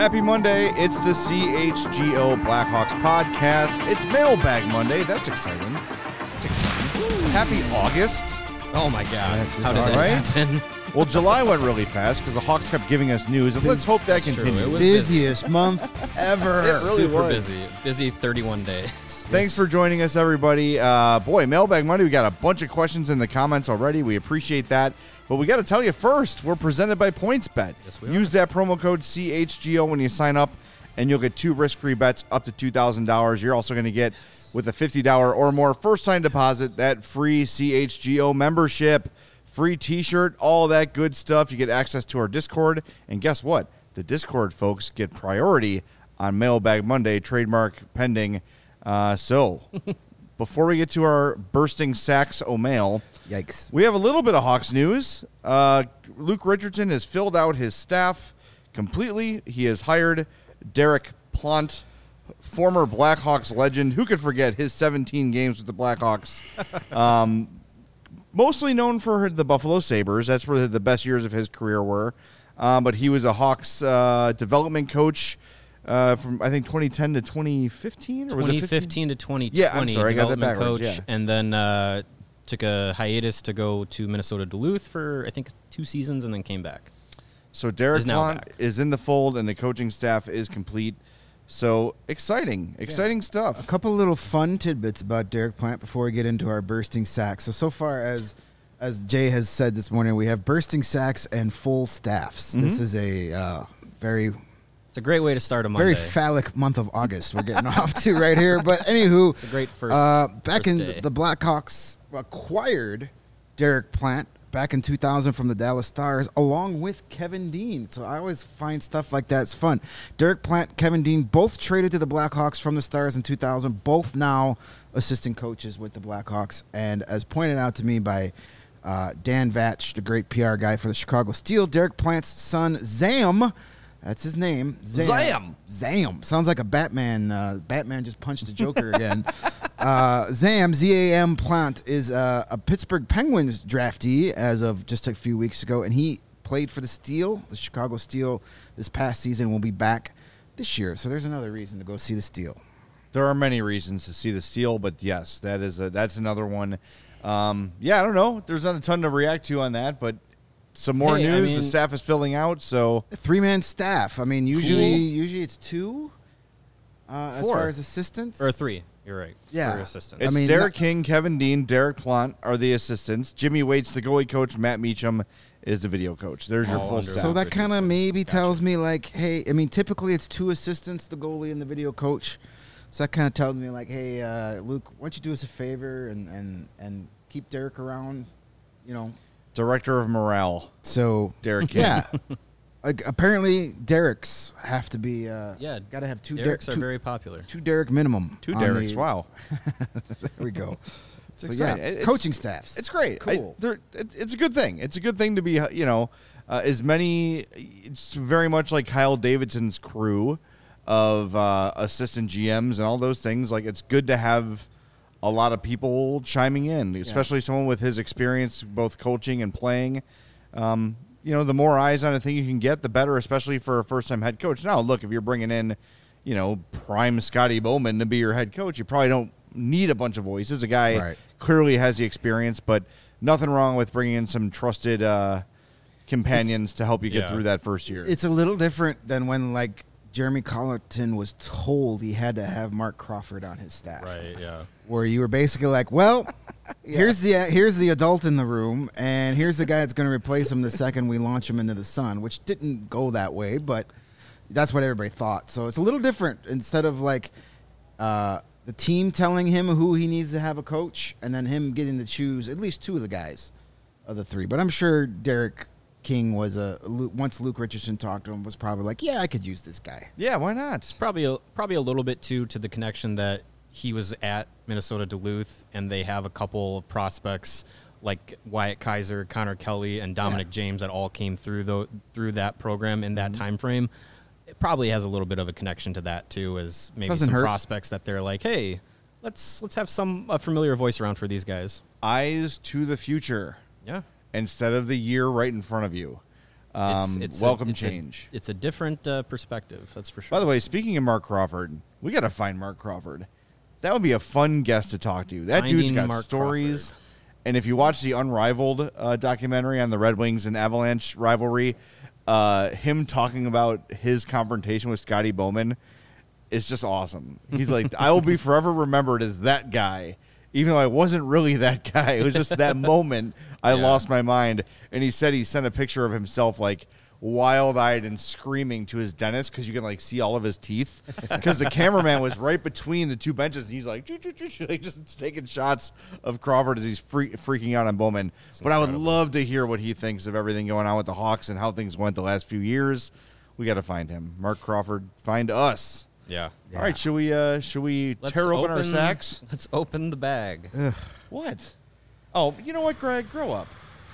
Happy Monday. It's the CHGO Blackhawks podcast. It's Mailbag Monday. That's exciting. Happy August. Oh, my God. Yes, How did that happen? Well, July went really fast because the Hawks kept giving us news, and let's hope that continues. It was busiest month ever. It really Super was. busy 31 days. Thanks for joining us, everybody. Mailbag Monday. We got a bunch of questions in the comments already. We appreciate that. But we got to tell you first, we're presented by PointsBet. Yes, we Use that promo code CHGO when you sign up, and you'll get 2 risk-free bets up to $2,000. You're also going to get, with a $50 or more first-time deposit, that free CHGO membership, free T-shirt, all that good stuff. You get access to our Discord. And guess what? The Discord folks get priority on Mailbag Monday, trademark pending. So, before we get to our bursting sacks mail, Yikes. we have a little bit of Hawks news. Luke Richardson has filled out his staff completely. He has hired Derek Plant, former Blackhawks legend. Who could forget his 17 games with the Blackhawks? Mostly known for the Buffalo Sabres. That's where the best years of his career were. But he was a Hawks development coach from, I think, 2010 to 2015? Or was 2015 to 2020. Yeah, I'm sorry, I got that development backwards, coach, yeah. and then took a hiatus to go to Minnesota Duluth for, I think, 2 seasons, and then came back. So Derek Is now Plant back. is in the fold, and the coaching staff is complete. So exciting stuff. A couple little fun tidbits about Derek Plant before we get into our bursting sacks. So far as Jay has said this morning, we have bursting sacks and full staffs. Mm-hmm. This is a very It's a great way to start a Monday. very phallic month of August we're getting off to right here. But anywho, It's a great first back first in day. the Blackhawks acquired Derek Plant back in 2000 from the Dallas Stars, along with Kevin Dean. So I always find stuff like that's fun. Derek Plant, Kevin Dean, both traded to the Blackhawks from the Stars in 2000, both now assistant coaches with the Blackhawks. And as pointed out to me by Dan Vatch, the great PR guy for the Chicago Steel, Derek Plant's son, Zam, that's his name. Zam. Sounds like a Batman. Batman just punched the Joker again. Zam, Z-A-M Plant, is a Pittsburgh Penguins draftee as of just a few weeks ago, and he played for the Steel, the Chicago Steel, this past season. Will be back this year. So there's another reason to go see the Steel. There are many reasons to see the Steel, but yes, that's another one. I don't know. There's not a ton to react to on that, but some more news. The staff is filling out, so A 3-man staff. I mean, usually it's 2 as 4. far as assistants. Or 3. You're right. Yeah. For assistants. it's I mean, Derek King, Kevin Dean, Derek Plant are the assistants. Jimmy Waits, the goalie coach. Matt Meacham is the video coach. There's your All full under staff. So that kind of Richardson. maybe Gotcha. tells me, like, hey, I mean, typically it's 2 assistants, the goalie and the video coach. So that kind of tells me, like, hey, Luke, why don't you do us a favor and keep Derek around, you know? Director of morale, So, Derek King. yeah. Like, apparently, Derek's have to be, Yeah, got to have 2 Derek's are two, very popular. 2 Derek minimum. 2 on Derek's. the- Wow. There we go. It's So, exciting. yeah, It's- coaching staffs. It's great. Cool. It's a good thing. It's a good thing to be, as many, it's very much like Kyle Davidson's crew of assistant GMs and all those things. Like, it's good to have a lot of people chiming in, especially someone with his experience, both coaching and playing. The more eyes on a thing you can get, the better, especially for a first-time head coach. Now, look, if you're bringing in, prime Scotty Bowman to be your head coach, you probably don't need a bunch of voices. A guy Right. clearly has the experience, but nothing wrong with bringing in some trusted companions to help you get through that first year. It's a little different than when, like, Jeremy Colleton was told he had to have Mark Crawford on his staff. Right, yeah. Where you were basically like, well, here's the adult in the room, and here's the guy that's going to replace him the second we launch him into the sun, which didn't go that way, but that's what everybody thought. So it's a little different. Instead of, like, the team telling him who he needs to have a coach, and then him getting to choose at least 2 of the guys of the 3. But I'm sure Derek King was once Luke Richardson talked to him, was probably like, yeah, I could use this guy. Yeah, why not? Probably a little bit, too, to the connection that he was at Minnesota Duluth, and they have a couple of prospects like Wyatt Kaiser, Connor Kelly, and Dominic James that all came through that program in that time frame. It probably has a little bit of a connection to that, too, as maybe Doesn't some hurt. prospects that they're like, hey, let's have a familiar voice around for these guys. Eyes to the future Yeah. instead of the year right in front of you. Welcome change. It's a different perspective, that's for sure. By the way, speaking of Mark Crawford, we got to find Mark Crawford. That would be a fun guest to talk to. That dude's got Mark stories. Crawford. And if you watch the Unrivaled documentary on the Red Wings and Avalanche rivalry, him talking about his confrontation with Scotty Bowman is just awesome. He's like, I will be forever remembered as that guy, even though I wasn't really that guy. It was just that moment I lost my mind. And he said he sent a picture of himself like wild-eyed and screaming to his dentist because you can like see all of his teeth because the cameraman was right between the two benches and he's like just taking shots of Crawford as he's freaking out on Bowman. But I would love to hear what he thinks of everything going on with the Hawks and how things went the last few years. We got to find him. Mark Crawford, find us. Yeah. All right, should we tear open our sacks? Let's open the bag. What? Oh, you know what, Greg? Grow up.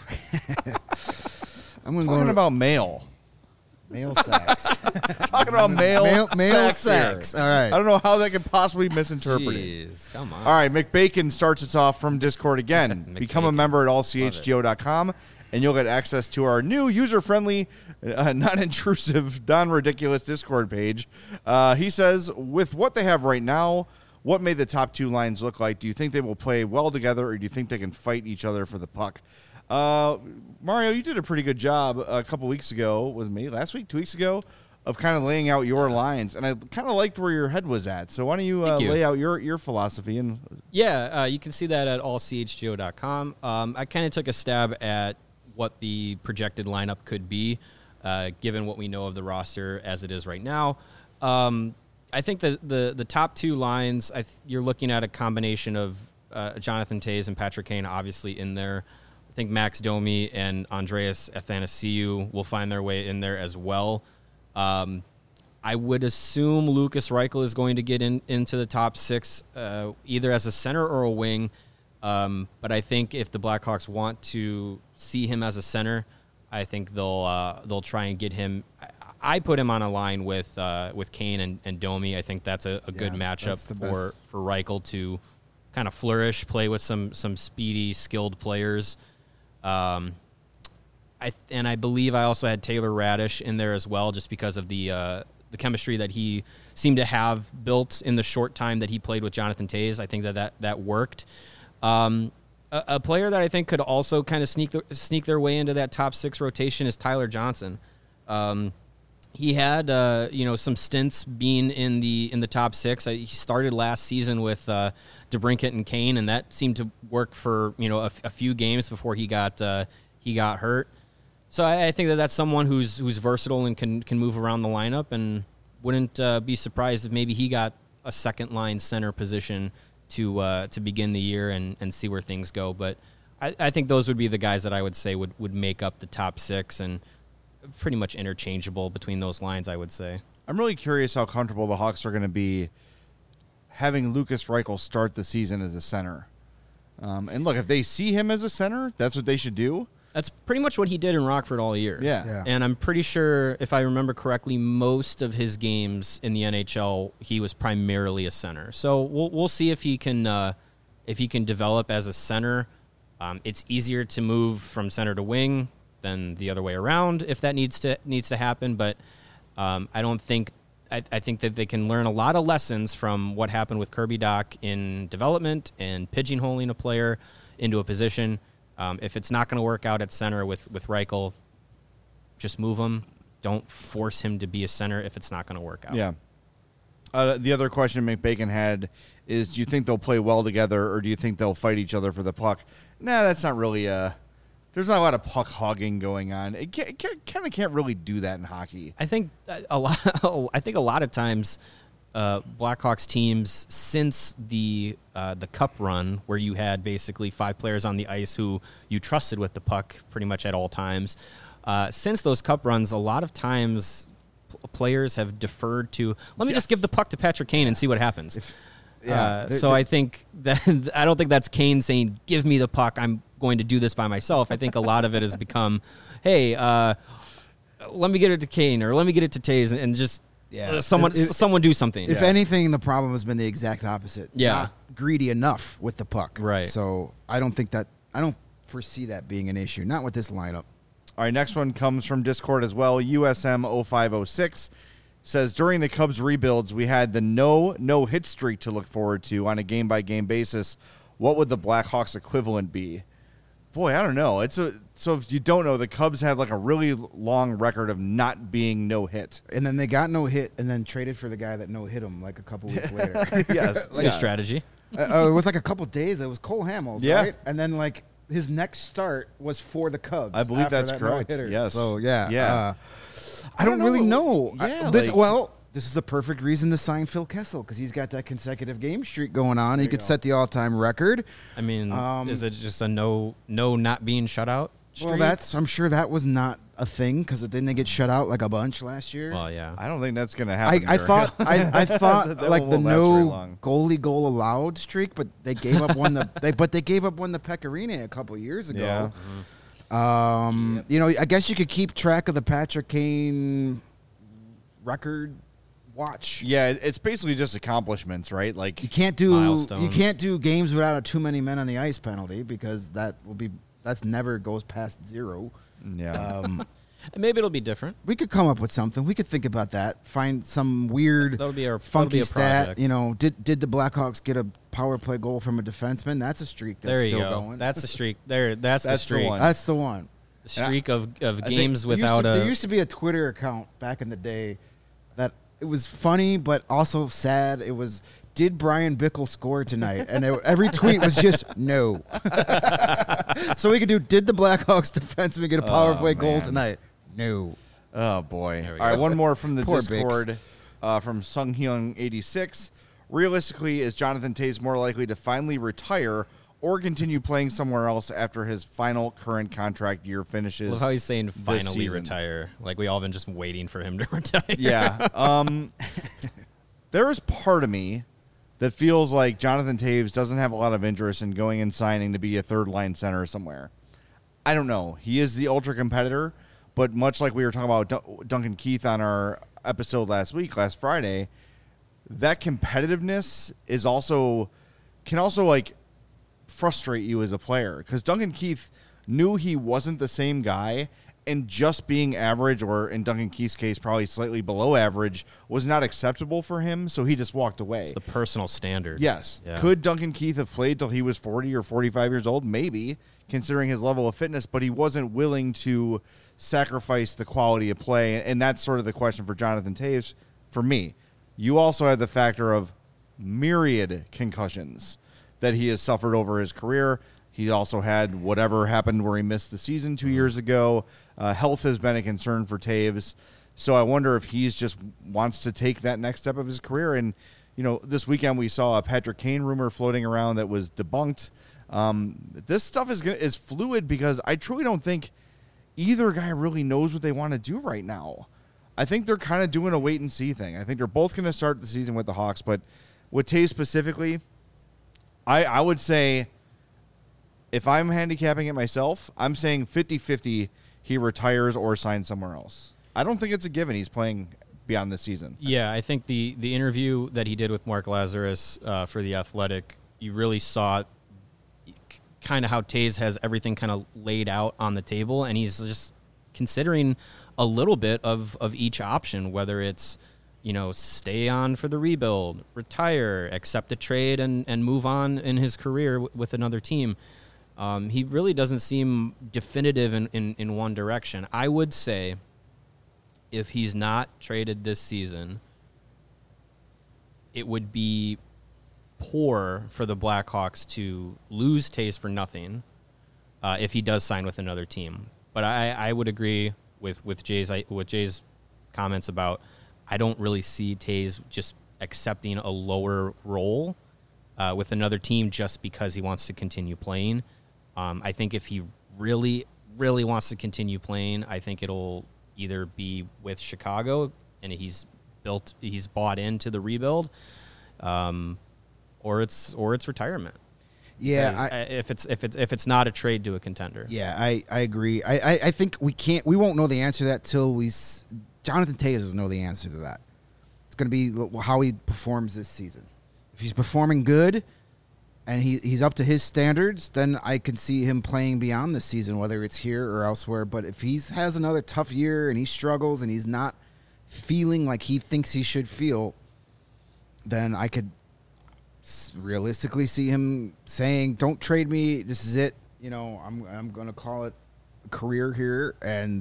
I'm going Talking about mail. mail sacks. Talking about mail sacks. All right. I don't know how that could possibly be misinterpreted. Jeez, come on. All right, McBacon starts us off from Discord again. Become a member at allchgo.com, and you'll get access to our new user-friendly, non-intrusive, non-ridiculous Discord page. He says, with what they have right now, what may the top two lines look like? Do you think they will play well together, or do you think they can fight each other for the puck? Mario, you did a pretty good job a couple weeks ago. Was it last week, 2 weeks ago, of kind of laying out your lines, and I kind of liked where your head was at. So why don't you lay out your philosophy? And you can see that at allchgo.com. I kind of took a stab at what the projected lineup could be, given what we know of the roster as it is right now. I think the top two lines, you're looking at a combination of Jonathan Toews and Patrick Kane, obviously in there. I think Max Domi and Andreas Athanasiou will find their way in there as well. I would assume Lucas Reichel is going to get into the top six, either as a center or a wing. But I think if the Blackhawks want to see him as a center, I think they'll try and get him. I put him on a line with Kane and Domi. I think that's a good matchup for Reichel to kind of flourish, play with some speedy, skilled players. I believe I also had Taylor Radish in there as well, just because of the chemistry that he seemed to have built in the short time that he played with Jonathan Toews. I think that worked. A player that I think could also kind of sneak their way into that top six rotation is Tyler Johnson. He had some stints being in the top six. He started last season with DeBrincat and Kane, and that seemed to work for a few games before he got hurt. So I think that's someone who's versatile and can move around the lineup, and wouldn't be surprised if maybe he got a second line center position to begin the year and see where things go. But I think those would be the guys that I would say would make up the top six, and pretty much interchangeable between those lines, I would say. I'm really curious how comfortable the Hawks are going to be having Lucas Reichel start the season as a center. And look, if they see him as a center, that's what they should do. That's pretty much what he did in Rockford all year. Yeah. And I'm pretty sure, if I remember correctly, most of his games in the NHL, he was primarily a center. So we'll see if he can develop as a center. It's easier to move from center to wing than the other way around if that needs to happen. But I don't think I think that they can learn a lot of lessons from what happened with Kirby Dach in development and pigeonholing a player into a position. If it's not going to work out at center with Reichel, just move him. Don't force him to be a center if it's not going to work out. Yeah. The other question McBacon had is, do you think they'll play well together, or do you think they'll fight each other for the puck? Nah, that's not really there's not a lot of puck hogging going on. It kind of can't really do that in hockey. I think a lot of times Blackhawks teams, since the Cup run, where you had basically 5 players on the ice who you trusted with the puck pretty much at all times, since those Cup runs, a lot of times players have deferred to, let me just give the puck to Patrick Kane and see what happens. I think that I don't think that's Kane saying, give me the puck, I'm going to do this by myself. I think a lot of it has become, hey, let me get it to Kane, or let me get it to Toews, and just someone do something. If anything, the problem has been the exact opposite. Yeah. Not greedy enough with the puck. Right. So I don't foresee that being an issue. Not with this lineup. All right, next one comes from Discord as well. USM0506 says, during the Cubs rebuilds, we had the no hit streak to look forward to on a game-by-game basis. What would the Blackhawks equivalent be? Boy, I don't know. So if you don't know, the Cubs had like a really long record of not being no hit. And then they got no hit and then traded for the guy that no hit him like a couple weeks later. Yes. It's a good strategy. It was like a couple days. It was Cole Hamels, Yeah. right? And then like his next start was for the Cubs. I believe after that's that correct. no-hitter. Yes. So yeah. Yeah. I don't really know. Yeah, This is the perfect reason to sign Phil Kessel because he's got that consecutive game streak going on. He could set the all-time record. I mean, is it just a no not being shut out streak? Well, I'm sure that was not a thing because didn't they get shut out like a bunch last year? Well, yeah. I don't think that's going to happen. I thought I thought That like the won't last very no long. goalie goal allowed streak, but they gave up one they gave up one the Pecorine a couple years ago. Yeah. You know, I guess you could keep track of the Patrick Kane record watch. Yeah, it's basically just accomplishments, right? Like You can't Milestones. do games without a too many men on the ice penalty because that's never goes past 0. yeah. And maybe it'll be different. We could come up with something. We could think about that. Find some weird, That'll be funky a stat. project. You know, did the Blackhawks get a power play goal from a defenseman? That's a streak that's There you still go. going. That's the streak. That's the That's the streak. one. That's the one. The streak of think games There without there a. used to be a Twitter account back in the day that it was funny but also sad. It was, did Brian Bickle score tonight? And every tweet was just no. So we could do, did the Blackhawks defenseman get a power play goal man. tonight? No. Oh, boy. There we All right, go. one more from the Poor Discord from Sung Hyung 86. Realistically, is Jonathan Toews more likely to finally retire or continue playing somewhere else after his final current contract year finishes? Love how he's saying finally season. retire. Like we all been just waiting for him to retire. Yeah. There is part of me that feels like Jonathan Toews doesn't have a lot of interest in going and signing to be a third-line center somewhere. I don't know. He is the ultra competitor, but much like we were talking about Duncan Keith on our episode last Friday, that competitiveness can also like frustrate you as a player because Duncan Keith knew he wasn't the same guy, and just being average, or in Duncan Keith's case, probably slightly below average, was not acceptable for him, so he just walked away. It's the personal standard. Yes. Yeah. Could Duncan Keith have played till he was 40 or 45 years old? Maybe, considering his level of fitness, but he wasn't willing to sacrifice the quality of play, and that's sort of the question for Jonathan Toews for me. You also have the factor of myriad concussions that he has suffered over his career. He also had whatever happened where he missed the season 2 years ago. Health has been a concern for Toews. So I wonder if he's just wants to take that next step of his career. And, you know, this weekend we saw a Patrick Kane rumor floating around that was debunked. This stuff is fluid because I truly don't think either guy really knows what they want to do right now. I think they're kind of doing a wait and see thing. I think they're both going to start the season with the Hawks, but with Toews specifically, I would say, if I'm handicapping it myself, I'm saying 50-50 he retires or signs somewhere else. I don't think it's a given he's playing beyond this season. Yeah, I think the interview that he did with Mark Lazarus for The Athletic, you really saw kind of how Toews has everything kind of laid out on the table, and he's just considering a little bit of each option, whether it's, you know, stay on for the rebuild, retire, accept a trade, and move on in his career with another team. He really doesn't seem definitive in one direction. I would say if he's not traded this season, it would be poor for the Blackhawks to lose Toews for nothing if he does sign with another team. But I would agree with Jay's comments about I don't really see Toews just accepting a lower role with another team just because he wants to continue playing. I think if he really, really wants to continue playing, I think it'll either be with Chicago and he's bought into the rebuild, or it's retirement. Yeah, if it's not a trade to a contender. Yeah, I agree. I think we won't know the answer to that till Jonathan Toews doesn't know the answer to that. It's going to be how he performs this season. If he's performing good, and he's up to his standards, then I can see him playing beyond the season, whether it's here or elsewhere. But if he has another tough year and he struggles and he's not feeling like he thinks he should feel, then I could realistically see him saying, "Don't trade me. This is it. I'm going to call it a career here." And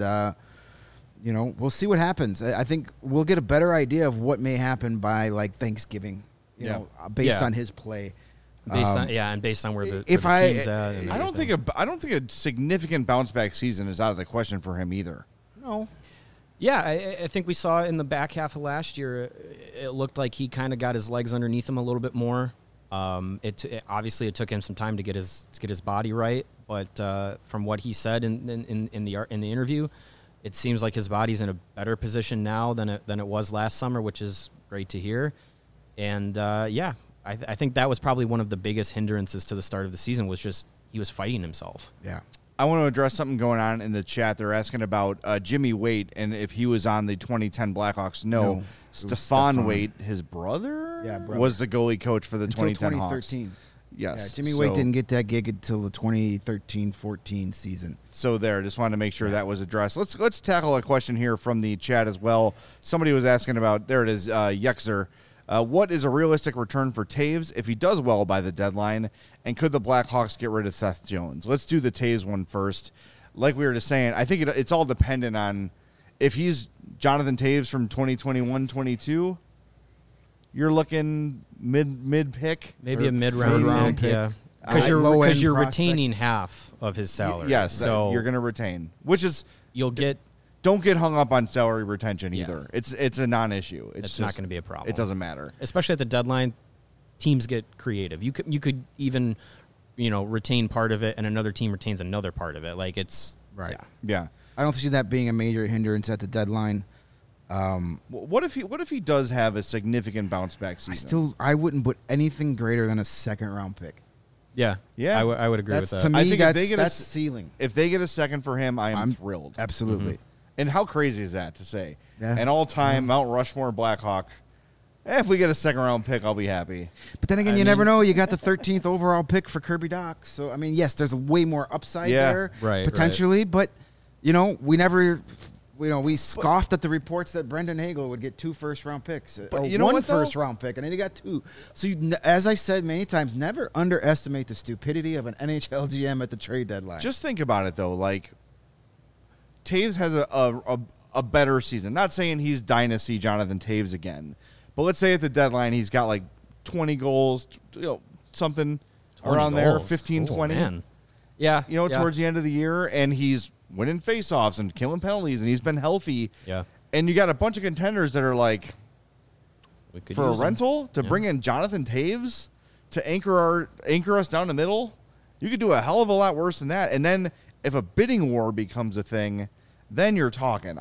we'll see what happens. I think we'll get a better idea of what may happen by like Thanksgiving. Based on his play. Based on where the if where the I- team's at. And I don't think a significant bounce back season is out of the question for him either. No. Yeah, I think we saw in the back half of last year, it looked like he kind of got his legs underneath him a little bit more. Obviously it took him some time to get his body right, but from what he said in the interview, it seems like his body's in a better position now than it was last summer, which is great to hear. And I think that was probably one of the biggest hindrances to the start of the season was just he was fighting himself. Yeah. I want to address something going on in the chat. They're asking about Jimmy Waite and if he was on the 2010 Blackhawks. No, it was Stefan Waite, his brother, was the goalie coach for the Until 2010 2013. Hawks. Yes. Yeah, Jimmy Waite didn't get that gig until the 2013-14 season. So just wanted to make sure that was addressed. Let's tackle a question here from the chat as well. Somebody was asking about, there it is, Yexer. What is a realistic return for Taves if he does well by the deadline? And could the Blackhawks get rid of Seth Jones? Let's do the Taves one first. Like we were just saying, I think it's all dependent on if he's Jonathan Taves from 2021-22, you're looking mid pick. Maybe a third round pick, pick. yeah. Low-end Because you're prospect. retaining half of his salary. Yes, so you're going to retain, which is you'll get. don't get hung up on salary retention Yeah. either. It's a non-issue. It's not going to be a problem. It doesn't matter. Especially at the deadline, teams get creative. You could even retain part of it, and another team retains another part of it. Like it's Right. Yeah. I don't see that being a major hindrance at the deadline. What if he does have a significant bounce back season? I wouldn't put anything greater than a second round pick. Yeah. Yeah. I would agree That's with to that. me. I think if they get that's a- ceiling. If they get a second for him, I'm I'm thrilled. Absolutely. And how crazy is that to say? Yeah. An all-time Mount Rushmore Blackhawk. If we get a second-round pick, I'll be happy. But then again, you never know. You got the 13th overall pick for Kirby Doc. So, I mean, yes, there's way more upside there Right, potentially. But, we never, we scoffed at the reports that Brendan Hagel would get 2 first-round picks. But or you know one what, though? first-round pick, and then he got 2. So, as I've said many times, never underestimate the stupidity of an NHL GM at the trade deadline. Just think about it, though. Like, Taves has a better season. Not saying he's dynasty Jonathan Taves again. But let's say at the deadline he's got like 20 goals, something 20 around there, goals. 15, Oh, 20. man. Yeah. Towards the end of the year, and he's winning faceoffs and killing penalties, and he's been healthy. Yeah. And you got a bunch of contenders that are like, We could for a use him. rental, to bring in Jonathan Taves to anchor us down the middle, you could do a hell of a lot worse than that. And then if a bidding war becomes a thing, then you're talking.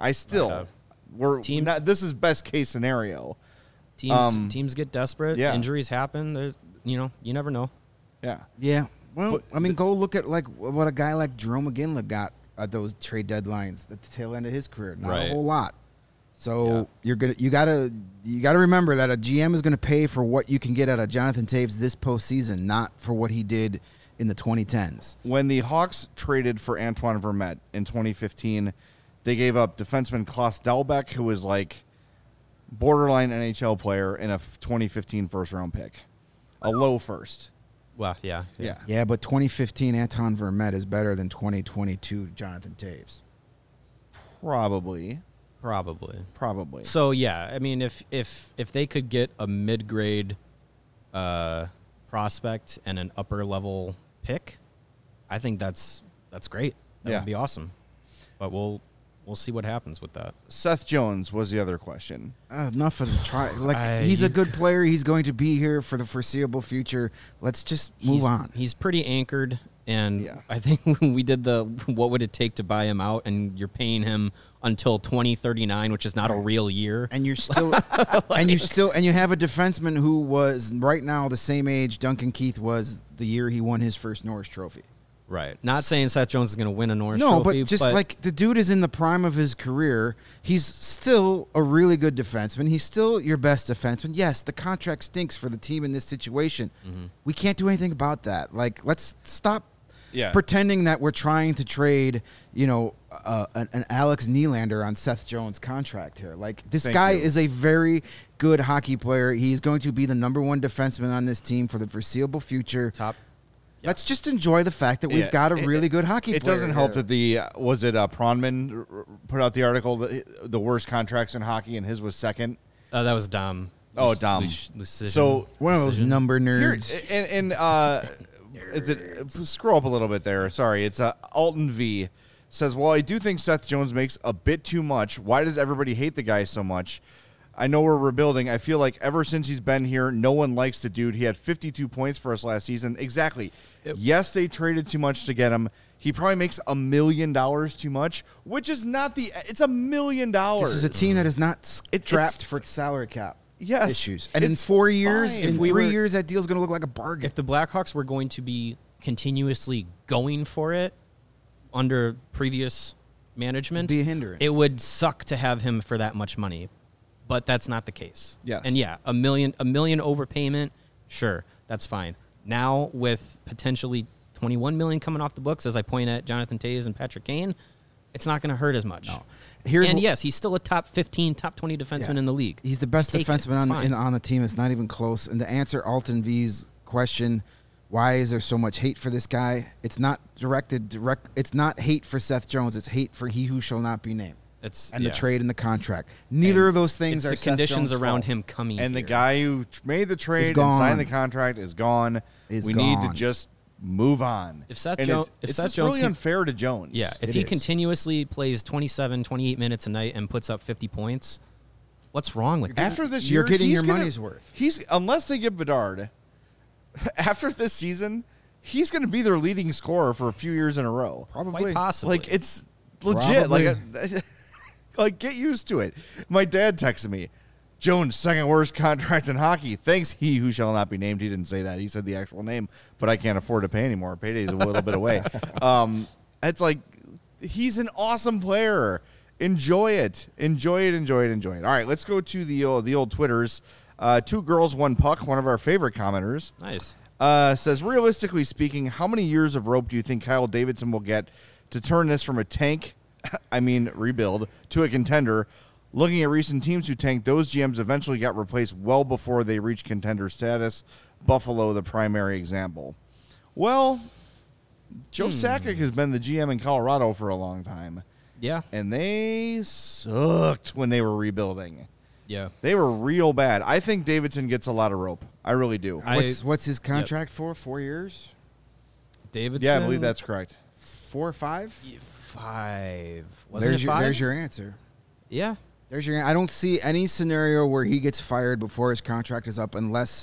This is best case scenario. Teams get desperate. yeah. Injuries happen. There's, you never know. Yeah. Yeah. Well, But go look at like what a guy like Jerome McGinley got at those trade deadlines at the tail end of his career. Not Right. a whole lot. So you gotta remember that a GM is gonna pay for what you can get out of Jonathan Taves this postseason, not for what he did in the 2010s. When the Hawks traded for Antoine Vermette in 2015, they gave up defenseman Klaus Dahlbeck, who was like borderline NHL player, and a 2015 first-round pick. A low first. Well, yeah. Yeah, but 2015 Anton Vermette is better than 2022 Jonathan Taves. Probably. So yeah, I mean, if they could get a mid-grade prospect and an upper-level pick, I think that's great. That would be awesome. But we'll see what happens with that. Seth Jones was the other question. Enough of the try. Like he's a good player. He's going to be here for the foreseeable future. Let's just move on. He's pretty anchored, and Yeah. I think when we did the what would it take to buy him out, and you're paying him until 2039, which is not a real year. And you're still, and you have a defenseman who was right now the same age Duncan Keith was the year he won his first Norris Trophy. Right. Not saying Seth Jones is going to win a Norris No, Trophy, but just like the dude is in the prime of his career. He's still a really good defenseman. He's still your best defenseman. Yes, the contract stinks for the team in this situation. We can't do anything about that. Like, let's stop pretending that we're trying to trade, an Alex Nylander on Seth Jones' contract here. Like, this guy is a very good hockey player. He's going to be the number one defenseman on this team for the foreseeable future. top. Let's just enjoy the fact that we've got a really good hockey player. It doesn't help here. that Pronman put out the article, the worst contracts in hockey, and his was second. That was Dom. Oh, Dom. So One of those number nerds. Scroll up a little bit there. Sorry, it's Alton V says, "Well, I do think Seth Jones makes a bit too much. Why does everybody hate the guy so much? I know we're rebuilding. I feel like ever since he's been here, no one likes the dude. He had 52 points for us last season. Exactly. Yes, they traded too much to get him. He probably makes $1 million too much, which is not it's $1 million. This is a team that is not strapped for salary cap issues. And in it's 4 years, fine. in 3 years, that deal's going to look like a bargain. If the Blackhawks were going to be continuously going for it under previous management, Be a hindrance. it would suck to have him for that much money. But that's not the case. Yes. And yeah, a million overpayment, sure, that's fine. Now with potentially $21 million coming off the books, as I point at Jonathan Toews and Patrick Kane, it's not going to hurt as much. No. Yes, he's still a top 15, top 20 defenseman in the league. He's the best Take it. defenseman on the team. It's not even close. And to answer Alton V's question, why is there so much hate for this guy? It's not It's not hate for Seth Jones. It's hate for he who shall not be named. The trade and the contract. Neither of those things are the Seth conditions Jones' around fault. him coming. And the here. guy who made the trade and signed the contract is gone. We need to just move on. If Seth And Jones, it's just really unfair to Jones. Yeah, if he continuously plays 27, 28 minutes a night and puts up 50 points, what's wrong with that? After this You're year, getting he's your gonna- money's worth. Unless they get Bedard, after this season, he's going to be their leading scorer for a few years in a row. Probably. Quite possibly. Like, it's legit. Probably. Like, get used to it. My dad texted me, Jones, second worst contract in hockey. Thanks, he who shall not be named. He didn't say that. He said the actual name, but I can't afford to pay anymore. Payday's a little bit away. It's like, he's an awesome player. Enjoy it. Enjoy it. All right, let's go to the old Twitters. Two Girls, One Puck, one of our favorite commenters. Nice. Says, realistically speaking, how many years of rope do you think Kyle Davidson will get to turn this from a tank, rebuild, to a contender? Looking at recent teams who tanked, those GMs eventually got replaced well before they reached contender status. Buffalo, the primary example. Well, Joe Sakic has been the GM in Colorado for a long time. Yeah. And they sucked when they were rebuilding. Yeah. They were real bad. I think Davidson gets a lot of rope. I really do. What's his contract for? 4 years? Davidson? Yeah, I believe that's correct. 4 or 5? 5. Wasn't it 5? There's your answer. Yeah. I don't see any scenario where he gets fired before his contract is up unless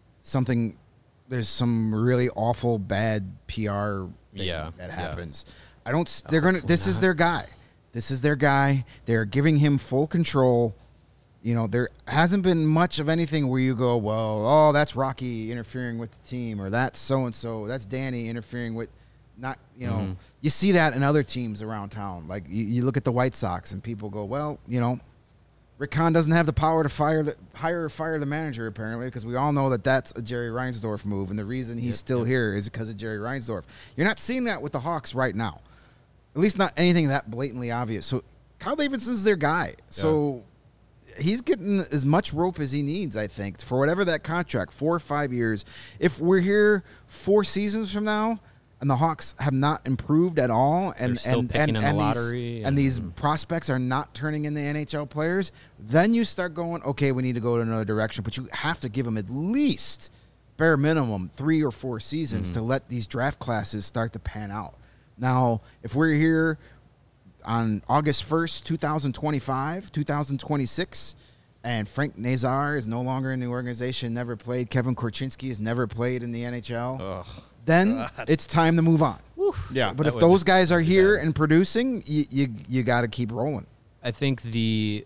there's some really awful bad PR thing that happens. I don't. They're gonna. This is their guy. This is their guy. They're giving him full control. There hasn't been much of anything where you go, well, that's Rocky interfering with the team, or that's so and so, that's Danny interfering with. Not, you see that in other teams around town. Like you look at the White Sox and people go, well, Rick Hahn doesn't have the power to fire the manager apparently, because we all know that that's a Jerry Reinsdorf move, and the reason he's still here is because of Jerry Reinsdorf. You're not seeing that with the Hawks right now, at least not anything that blatantly obvious. So Kyle Davidson's their guy. So he's getting as much rope as he needs, I think, for whatever that contract, 4 or 5 years. If we're here 4 seasons from now, and the Hawks have not improved at all, and these prospects are not turning into NHL players, then you start going, okay, we need to go in another direction. But you have to give them at least, bare minimum, 3 or 4 seasons to let these draft classes start to pan out. Now, if we're here on August 1st, 2025, 2026, and Frank Nazar is no longer in the organization, never played, Kevin Korchinski has never played in the NHL, then it's time to move on. Yeah, but if those guys are here and producing, you got to keep rolling. I think the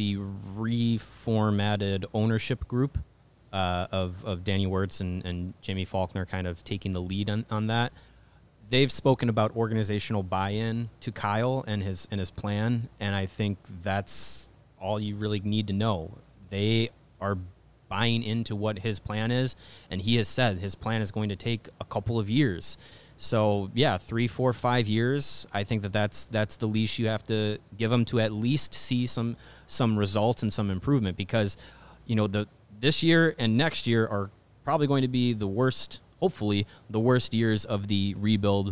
reformatted ownership group of Danny Wirtz and Jamie Faulkner kind of taking the lead on that, they've spoken about organizational buy-in to Kyle and his plan, and I think that's all you really need to know. They are buying into what his plan is, and he has said his plan is going to take a couple of years. So, yeah, 3, 4, 5 years. I think that's the leash you have to give him to at least see some results and some improvement, because, this year and next year are probably going to be the worst, hopefully, the worst years of the rebuilding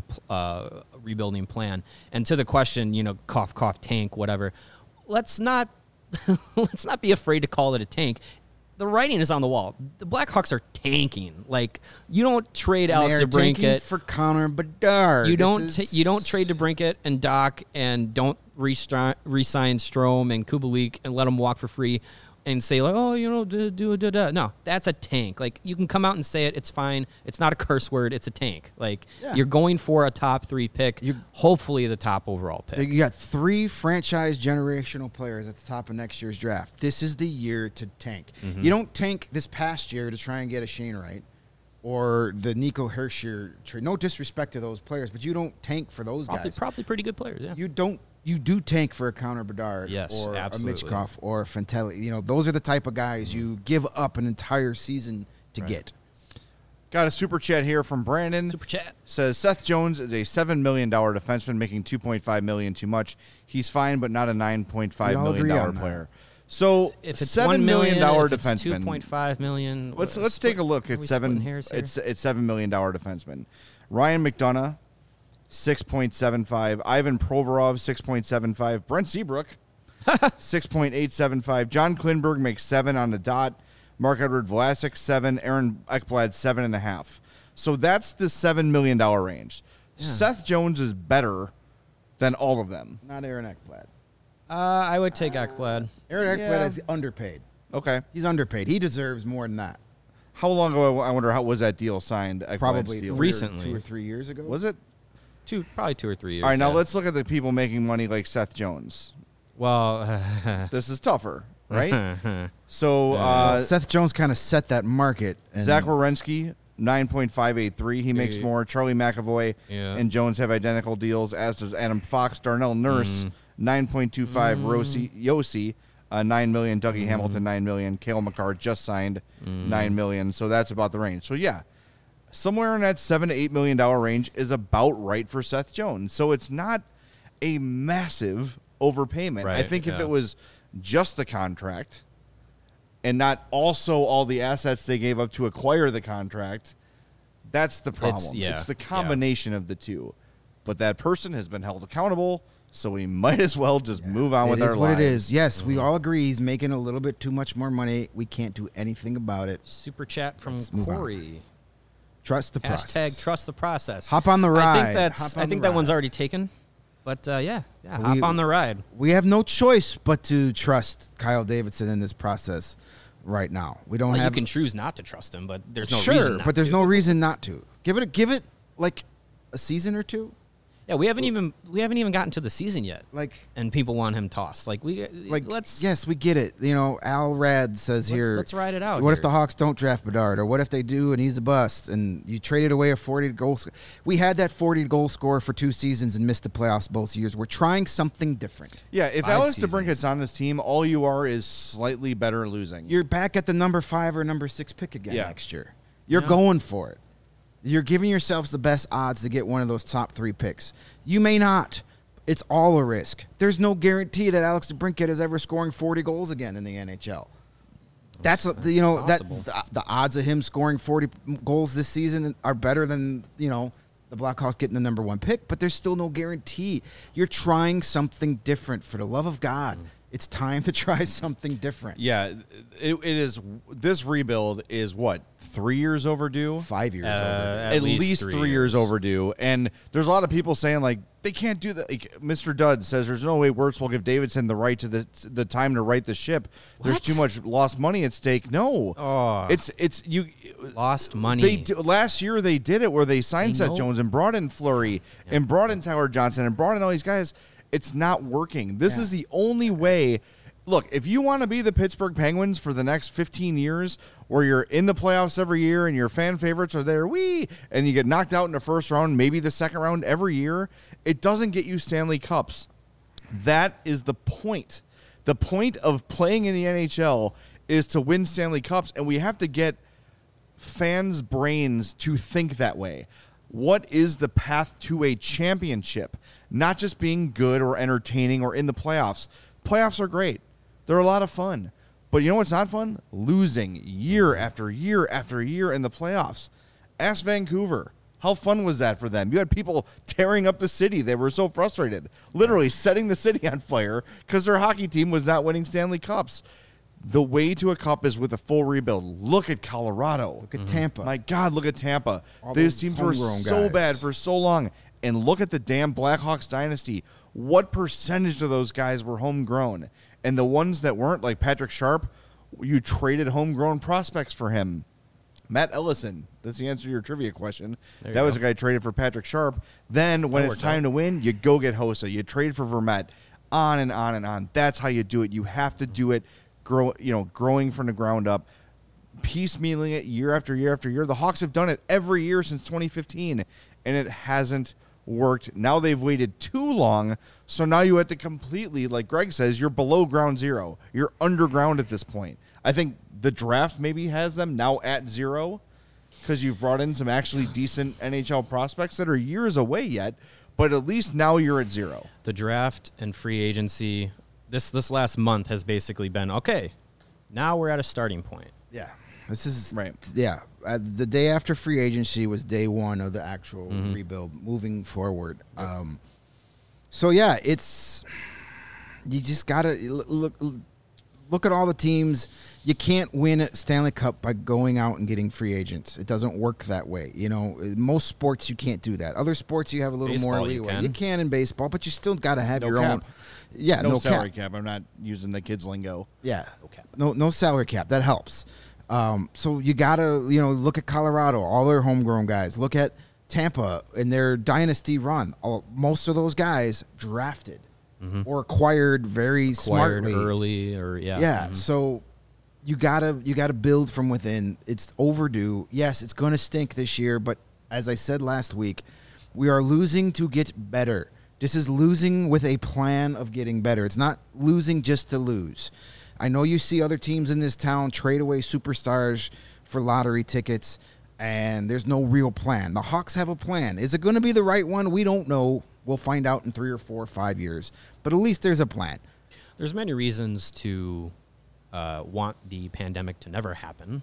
plan. And to the question, cough, cough, tank, whatever, let's not be afraid to call it a tank. The writing is on the wall. The Blackhawks are tanking. Like, you don't trade Alex DeBrincat for Connor Bedard. You don't trade DeBrincat and Doc, and don't re-sign Strome and Kubalik and let them walk for free and say, like, no, that's a tank. Like, you can come out and say it. It's fine. It's not a curse word. It's a tank. Like, you're going for a top 3 pick, hopefully the top overall pick. You got 3 franchise generational players at the top of next year's draft. This is the year to tank. Mm-hmm. You don't tank this past year to try and get a Shane Wright or the Nico Hischier trade. No disrespect to those players, but you don't tank for those guys. Probably pretty good players, yeah. You do tank for a Connor Bedard or absolutely. a Mitchkov or a Fantelli. Those are the type of guys you give up an entire season to get. Got a super chat here from Brandon. Super chat. Says Seth Jones is a $7 million defenseman making $2.5 million too much. He's fine, but not a $9.5 million player. So if it's $7 million defenseman, $2.5 million. Let's take a look at seven. It's $7 million defenseman. Ryan McDonough, 6.75. Ivan Provorov, 6.75. Brent Seabrook, 6.875. John Klingberg makes 7 on the dot. Mark-Edward Vlasic, 7. Aaron Ekblad, 7.5. So that's the $7 million range. Yeah. Seth Jones is better than all of them. Not Aaron Ekblad. I would take Ekblad. Aaron Ekblad is underpaid. Okay. He's underpaid. He deserves more than that. How long ago, I wonder, how was that deal signed? Probably deal? Recently. 2 or 3 years ago. Was it? Probably 2 or 3 years. All right, now let's look at the people making money like Seth Jones. Well, this is tougher, right? So Seth Jones kind of set that market. Zach Werenski, 9.583. He makes more. Charlie McAvoy and Jones have identical deals, as does Adam Fox. Darnell Nurse, 9.25. Yossi, $9 million. Dougie Hamilton, $9 million. Cale Makar just signed $9 million. So that's about the range. So yeah, somewhere in that $7 to $8 million range is about right for Seth Jones. So it's not a massive overpayment. Right, I think if it was just the contract and not also all the assets they gave up to acquire the contract, that's the problem. It's the combination of the two. But that person has been held accountable, so we might as well just move on with our lives. It is what it is. Yes, we all agree he's making a little bit too much more money. We can't do anything about it. Super chat from Corey. Trust the process. # trust the process. Hop on the ride. I think that one's already taken. But, hop on the ride. We have no choice but to trust Kyle Davidson in this process right now. We don't have. You can choose not to trust him, but there's no reason not but there's no reason not to. Give it like a season or two. Yeah, we haven't even gotten to the season yet. And people want him tossed. Yes, we get it. Al Rad says let's ride it out. What if the Hawks don't draft Bedard, or what if they do and he's a bust, and you traded away a 40-goal scorer? We had that 40-goal scorer for 2 seasons and missed the playoffs both years. We're trying something different. Yeah, if Alex DeBrincat's on this team, all you are is slightly better losing. You're back at the number 5 or number 6 pick again next year. You're going for it. You're giving yourselves the best odds to get one of those top 3 picks. You may not. It's all a risk. There's no guarantee that Alex DeBrincat is ever scoring 40 goals again in the NHL. That's the odds of him scoring 40 goals this season are better than the Blackhawks getting the number 1 pick, but there's still no guarantee. You're trying something different. For the love of God, it's time to try something different. Yeah, it is. This rebuild is what, 3 years overdue? 5 years overdue. At least 3 years overdue. And there's a lot of people saying, like, they can't do that. Like, Mr. Dudd says there's no way Wirtz will give Davidson the right to the time to right the ship. There's too much lost money at stake. No. It's you lost money. Last year they did it where they signed Seth Jones and brought in Fleury and brought in Tyler Johnson and brought in all these guys. It's not working. This is the only way. look, if you want to be the Pittsburgh Penguins for the next 15 years, where you're in the playoffs every year and your fan favorites are there, and you get knocked out in the first round, maybe the second round every year, it doesn't get you Stanley Cups. That is the point. The point of playing in the NHL is to win Stanley Cups, and we have to get fans' brains to think that way. What is the path to a championship? Not just being good or entertaining or in the playoffs. Playoffs are great. They're a lot of fun. But you know what's not fun? Losing year after year after year in the playoffs. Ask Vancouver. How fun was that for them? You had people tearing up the city. They were so frustrated. Literally setting the city on fire because their hockey team was not winning Stanley Cups. The way to a cup is with a full rebuild. Look at Colorado. Look at Tampa. My God, look at Tampa. All These those teams were homegrown so guys. bad for so long. And look at the damn Blackhawks dynasty. What percentage of those guys were homegrown? And the ones that weren't, like Patrick Sharp, you traded homegrown prospects for him. Matt Ellison, that's the answer to your trivia question. That was a guy traded for Patrick Sharp. Then when it's time to win, you go get Hossa. You trade for Vermette. On and on and on. That's how you do it. You have to do it growing from the ground up, piecemealing it year after year after year. The Hawks have done it every year since 2015, and it hasn't worked. Now they've waited too long, so now you have to completely, like Greg says, you're below ground zero. You're underground at this point. I think the draft maybe has them now at zero because you've brought in some actually decent NHL prospects that are years away yet, but at least now you're at zero. The draft and free agency, this last month has basically been, okay, now we're at a starting point. Yeah. This is right. Yeah. The day after free agency was day one of the actual rebuild moving forward. So yeah, you just gotta look at all the teams. You can't win a Stanley Cup by going out and getting free agents. It doesn't work that way. You know, most sports you can't do that. Other sports you have a little Baseball, more leeway. You can in baseball, but you still got to have No your cap. own. Yeah, No no salary cap. cap. I'm not using the kids' lingo. Yeah, No cap. No salary cap. That helps. So you gotta look at Colorado, all their homegrown guys. Look at Tampa and their dynasty run. Most of those guys drafted or acquired very smartly early, or Yeah. So you gotta build from within. It's overdue. Yes, it's gonna stink this year, but as I said last week, we are losing to get better. This is losing with a plan of getting better. It's not losing just to lose. I know you see other teams in this town trade away superstars for lottery tickets, and there's no real plan. The Hawks have a plan. Is it going to be the right one? We don't know. We'll find out in 3 or 4 or 5 years. But at least there's a plan. There's many reasons to want the pandemic to never happen.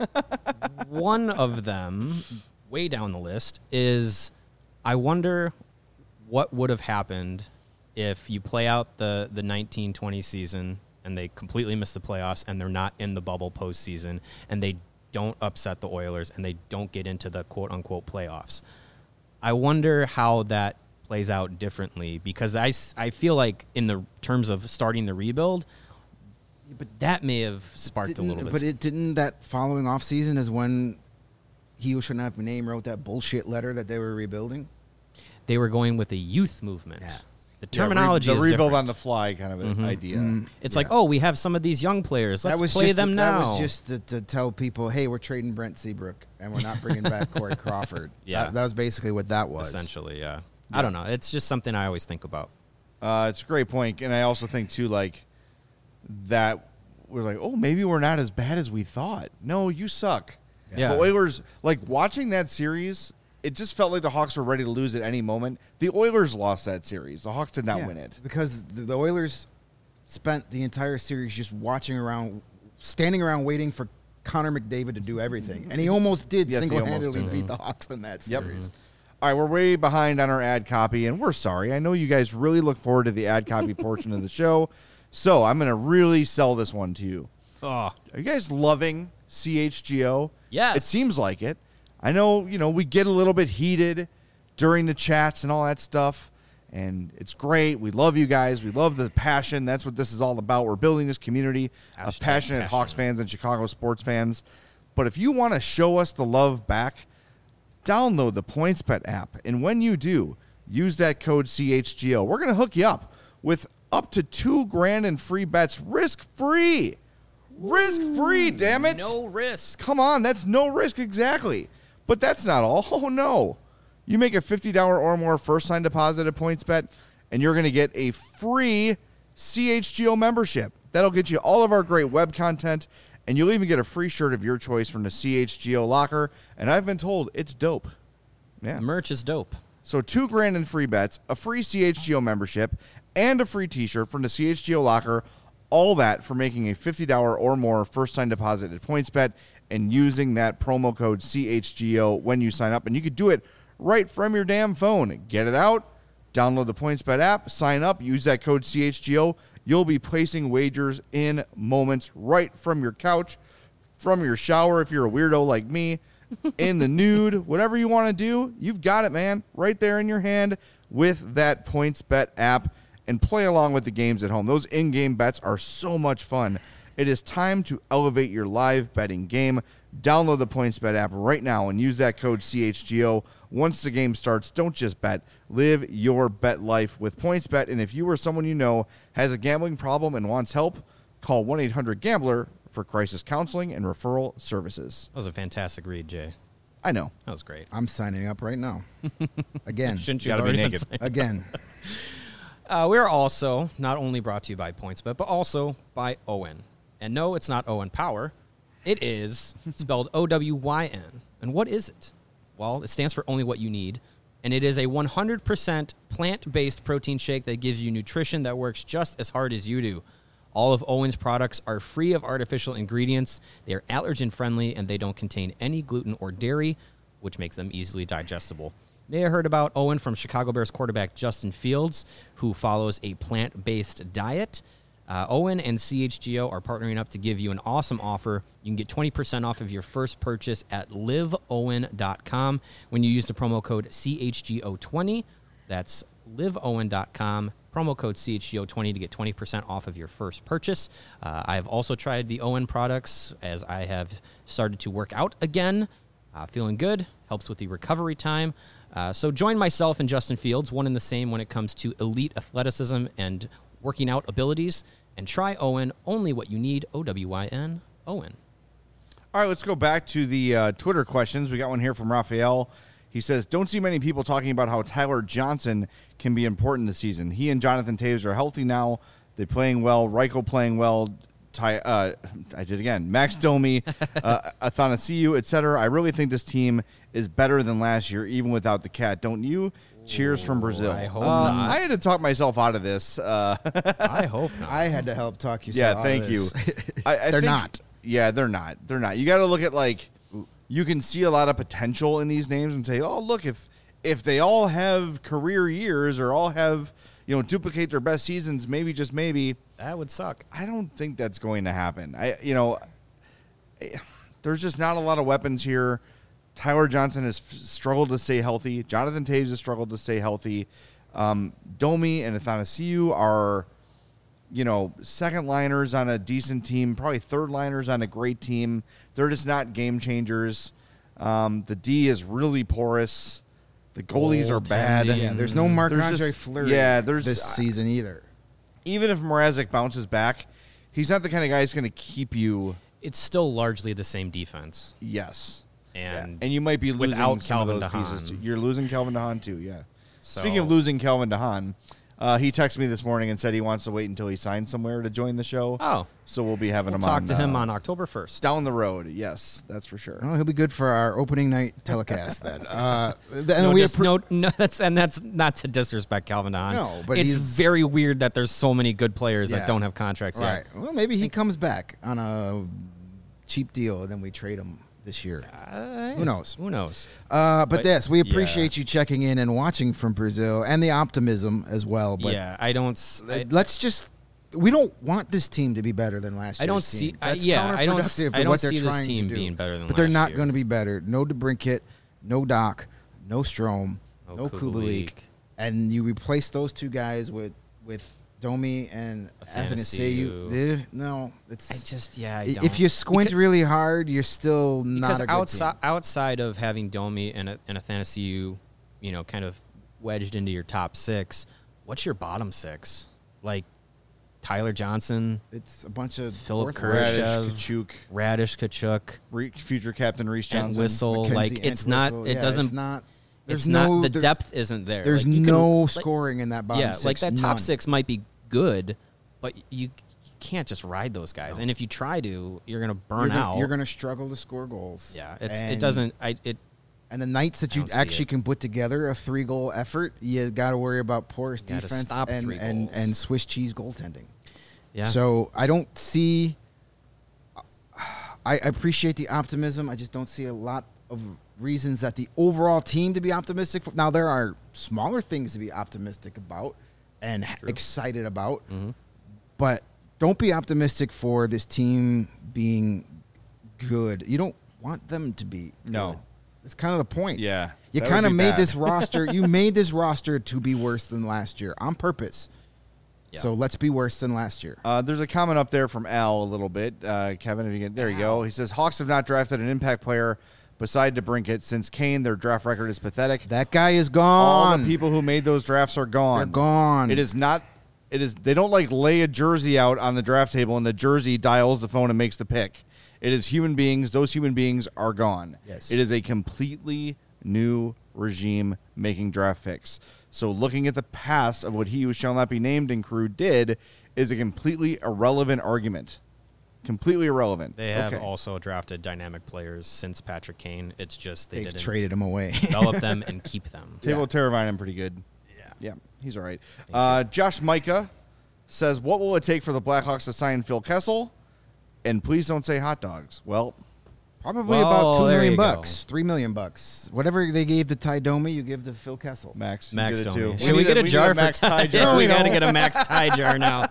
One of them, way down the list, is I wonder what would have happened if you play out the 1920 season and they completely miss the playoffs and they're not in the bubble postseason and they don't upset the Oilers and they don't get into the quote-unquote playoffs. I wonder how that plays out differently because I feel like in the terms of starting the rebuild, but that may have sparked a little bit. But didn't that following offseason is when he who should not be named wrote that bullshit letter that they were rebuilding? They were going with a youth movement. Yeah. The terminology the is rebuild different. on the fly kind of an idea. It's like, oh, we have some of these young players. Let's play them now. That was just to tell people, hey, we're trading Brent Seabrook and we're not bringing back Corey Crawford. Yeah. That was basically what that was. Essentially, yeah. I don't know. It's just something I always think about. It's a great point, and I also think too, like that we're like, oh, maybe we're not as bad as we thought. No, you suck. Yeah. The Oilers, like watching that series, it just felt like the Hawks were ready to lose at any moment. The Oilers lost that series. The Hawks did not win it because the Oilers spent the entire series just watching around, standing around, waiting for Connor McDavid to do everything, and he almost did single-handedly beat the Hawks in that series. All right, we're way behind on our ad copy, and we're sorry. I know you guys really look forward to the ad copy portion of the show, so I'm going to really sell this one to you. Oh, Are you guys loving CHGO? Yes. It seems like it. I know, we get a little bit heated during the chats and all that stuff, and it's great. We love you guys. We love the passion. That's what this is all about. We're building this community of passionate Hawks fans and Chicago sports fans. But if you want to show us the love back, download the PointsBet app, and when you do, use that code CHGO. We're going to hook you up with up to $2,000 in free bets, risk-free. Risk-free, damn it. No risk. Come on, that's no risk, exactly. But that's not all. Oh, no. You make a $50 or more first-time deposit at PointsBet, and you're going to get a free CHGO membership. That'll get you all of our great web content, and you'll even get a free shirt of your choice from the CHGO locker. And I've been told it's dope. Yeah. Merch is dope. So $2,000 in free bets, a free CHGO membership, and a free t-shirt from the CHGO locker. All that for making a $50 or more first-time deposit at PointsBet and using that promo code CHGO when you sign up. And you could do it right from your damn phone. Get it out, download the PointsBet app, sign up, use that code CHGO. You'll be placing wagers in moments right from your couch, from your shower if you're a weirdo like me, in the nude, whatever you want to do, you've got it, man, right there in your hand with that PointsBet app. And play along with the games at home. Those in-game bets are so much fun. It is time to elevate your live betting game. Download the PointsBet app right now and use that code CHGO. Once the game starts, don't just bet. Live your bet life with PointsBet. And if you or someone you know has a gambling problem and wants help, call 1-800-GAMBLER for crisis counseling and referral services. That was a fantastic read, Jay. I know. That was great. I'm signing up right now. Again. Shouldn't you Gotta be already been naked. saying- Again. We are also not only brought to you by PointsBet, but also by Owen. And no, it's not Owen Power. It is spelled OWYN. And what is it? Well, it stands for Only What You Need. And it is a 100% plant-based protein shake that gives you nutrition that works just as hard as you do. All of Owen's products are free of artificial ingredients. They are allergen-friendly, and they don't contain any gluten or dairy, which makes them easily digestible. May have heard about Owen from Chicago Bears quarterback Justin Fields, who follows a plant-based diet. Owen and CHGO are partnering up to give you an awesome offer. You can get 20% off of your first purchase at liveowen.com when you use the promo code CHGO20. That's liveowen.com, promo code CHGO20 to get 20% off of your first purchase. I have also tried the Owen products as I have started to work out again. Feeling good, helps with the recovery time. So join myself and Justin Fields, one and the same when it comes to elite athleticism and working out abilities. And try Owen, only what you need, OWYN, Owen. All right, let's go back to the Twitter questions. We got one here from Raphael. He says, don't see many people talking about how Tyler Johnson can be important this season. He and Jonathan Taves are healthy now. They're playing well. Reichel playing well. I did again. Max Domi, Athanasiou, etc. I really think this team is better than last year, even without the cat. Don't you? Cheers from Brazil. I hope not. I had to talk myself out of this. I hope not. I had to help talk you. Yeah, thank you. I They're think- not. Yeah, they're not. They're not. You got to look at, like, you can see a lot of potential in these names and say, oh, look, if they all have career years or all have, duplicate their best seasons, maybe, just maybe. That would suck. I don't think that's going to happen. There's just not a lot of weapons here. Tyler Johnson has struggled to stay healthy. Jonathan Taves has struggled to stay healthy. Domi and Athanasiou are, second liners on a decent team, probably third liners on a great team. They're just not game changers. The D is really porous. The goalies are bad. Yeah, there's no Marc-Andre There's just- Fleury there's this season either. Even if Mrazek bounces back, he's not the kind of guy who's going to keep you. It's still largely the same defense. Yes. And you might be losing without some Calvin of those DeHaan. pieces too. You're losing Calvin DeHaan too, yeah. So- Speaking of losing Calvin DeHaan, he texted me this morning and said he wants to wait until he signs somewhere to join the show. Oh. So we'll be having we'll him talk on. to him on October 1st. Down the road, yes, that's for sure. Oh, he'll be good for our opening night telecast then. That's not to disrespect Calvin DeHaan. No, but it's he's- very weird that there's so many good players Yeah. that don't have contracts Right. yet. Well, maybe he comes back on a cheap deal, and then we trade him this year. Who knows? Who knows? But yes, we yeah. appreciate you checking in and watching from Brazil, and the optimism as well. But Yeah, I don't. let's just. We don't want this team to be better than last year. I don't see. That's I don't. counterproductive to I don't what they're see this trying to team do. being better than. But they're last not year. going to be better. No DeBrincat, no Doc, no Strome, no Kubalik, and you replace those two guys with Domi and Athanasiou. Athanasiou. No, I it's just I if don't. you squint Because- really hard, you're still not because a good team. outside of having Domi and Athanasiou, kind of wedged into your top six, what's your bottom six? Like Tyler Johnson, It's a bunch of Philip fourth- Kurashev. Radish, Kachuk, Radish, Kachuk, future captain Reese and Johnson. Whistle. Mackenzie Like it's not. Entwistle. It Yeah, doesn't. It's not. There's It's not. no The there- depth isn't there. There's Like, you can- no like, scoring in that bottom Yeah, six. like that None. top six might be good, but you can't just ride those guys. And if you try to, you're gonna burn out. You're gonna struggle to score goals. Yeah, it And- doesn't. And the nights that you don't see actually it. can put together a 3-goal effort, you got to worry about porous gotta defense stop and, 3 and, goals. and Swiss cheese goaltending. Yeah. So I don't see. I appreciate the optimism. I just don't see a lot of reasons that the overall team to be optimistic. Now there are smaller things to be optimistic about and excited about, but don't be optimistic for this team being good. You don't want them to be. No. good. That's kind of the point. Yeah, You that kind would of be made bad. this roster. You made this roster to be worse than last year on purpose. Yeah. So let's be worse than last year. There's a comment up there from Al a little bit. Kevin, if you get there, you go. He says Hawks have not drafted an impact player beside DeBrincat since Kane. Their draft record is pathetic. That guy is All gone. the people who made those drafts are gone. They're gone. It is not. It is. They don't like lay a jersey out on the draft table and the jersey dials the phone and makes the pick. It is human beings. Those human beings are gone. Yes. It is a completely new regime making draft picks. So looking at the past of what he who shall not be named and crew did is a completely irrelevant argument. Completely irrelevant. They have Okay. also drafted dynamic players since Patrick Kane. It's just they They've didn't traded him away. develop them and keep them. Table Teravainen pretty good. Yeah. Yeah, he's all right. Josh Micah says, what will it take for the Blackhawks to sign Phil Kessel? And please don't say hot dogs. Well, Probably Well, about $2 there million you go. bucks, $3 million bucks. Whatever they gave to Ty Domi, you give to Phil Kessel. Max, you Max did it Domi. too. Should we get a need jar Max for tie jar? Yeah, we You got to know. get a Max tie jar now.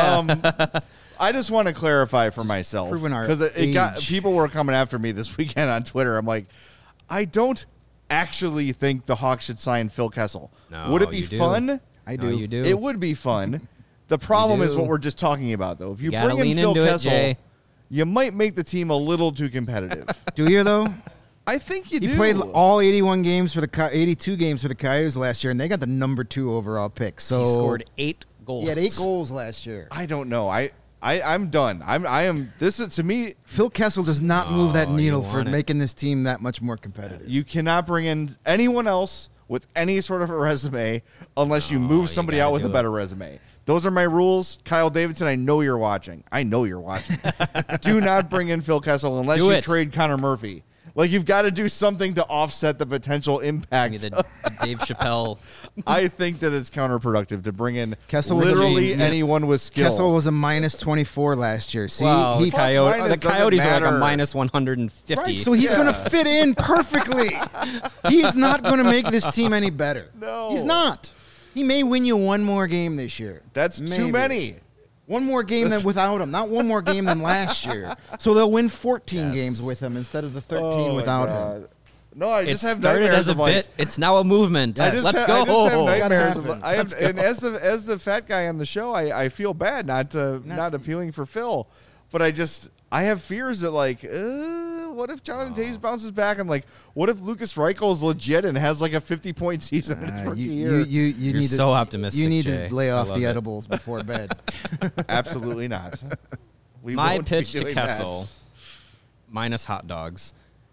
Yeah. I just want to clarify for myself proving our because it got age. people were coming after me this weekend on Twitter. I'm like, I don't actually think the Hawks should sign Phil Kessel. No, Would it be you do. fun? I No, do. you do. It would be fun. The problem is do. what we're just talking about, though. If you Gotta bring in lean Phil into it, Kessel, Jay. you might make the team a little too competitive. Do you, though? I think you He do. played all 81 games for the 82 games for the Coyotes last year, and they got the number 2 overall pick. So He scored 8 goals. He had 8 goals last year. I don't know. I'm done. I am. This is to me. Phil Kessel does not move that Oh, you needle for want it. making this team that much more competitive. You cannot bring in anyone else with any sort of a resume unless you No, move you somebody gotta out with a do better resume. Those are my rules. Kyle Davidson, I know you're watching. Do not bring in Phil Kessel unless Do you it. trade Connor Murphy. Like, you've got to do something to offset the potential impact. The Dave Chappelle. I think that it's counterproductive to bring in Kessel was a literally James anyone with skill. Kessel was a minus 24 last year. See, Wow, he the, Plus Coyotes, minus the Coyotes are doesn't like a matter. minus 150. right, so he's going to fit in perfectly. He's not going to make this team any better. No. He's not. He may win you one more game this year. That's Maybe. too many. One more game than without him, not one more game than last year. So they'll win 14 games with him instead of the 13 Oh, my without God. him. No, I it just have started nightmares as a of like, bit. It's now a movement. I just Let's ha- go. I just have Gotta nightmares of, happen. I have, and as the fat guy on the show, I feel bad not appealing for Phil, but I have fears that like, what if Jonathan Taves bounces back? I'm like, what if Lucas Reichel is legit and has like a 50-point season in his rookie year? You need so to, optimistic, You need Jay. to lay I off love the it. edibles before bed. Absolutely not. We My won't be pitch to doing that. Kessel, minus hot dogs,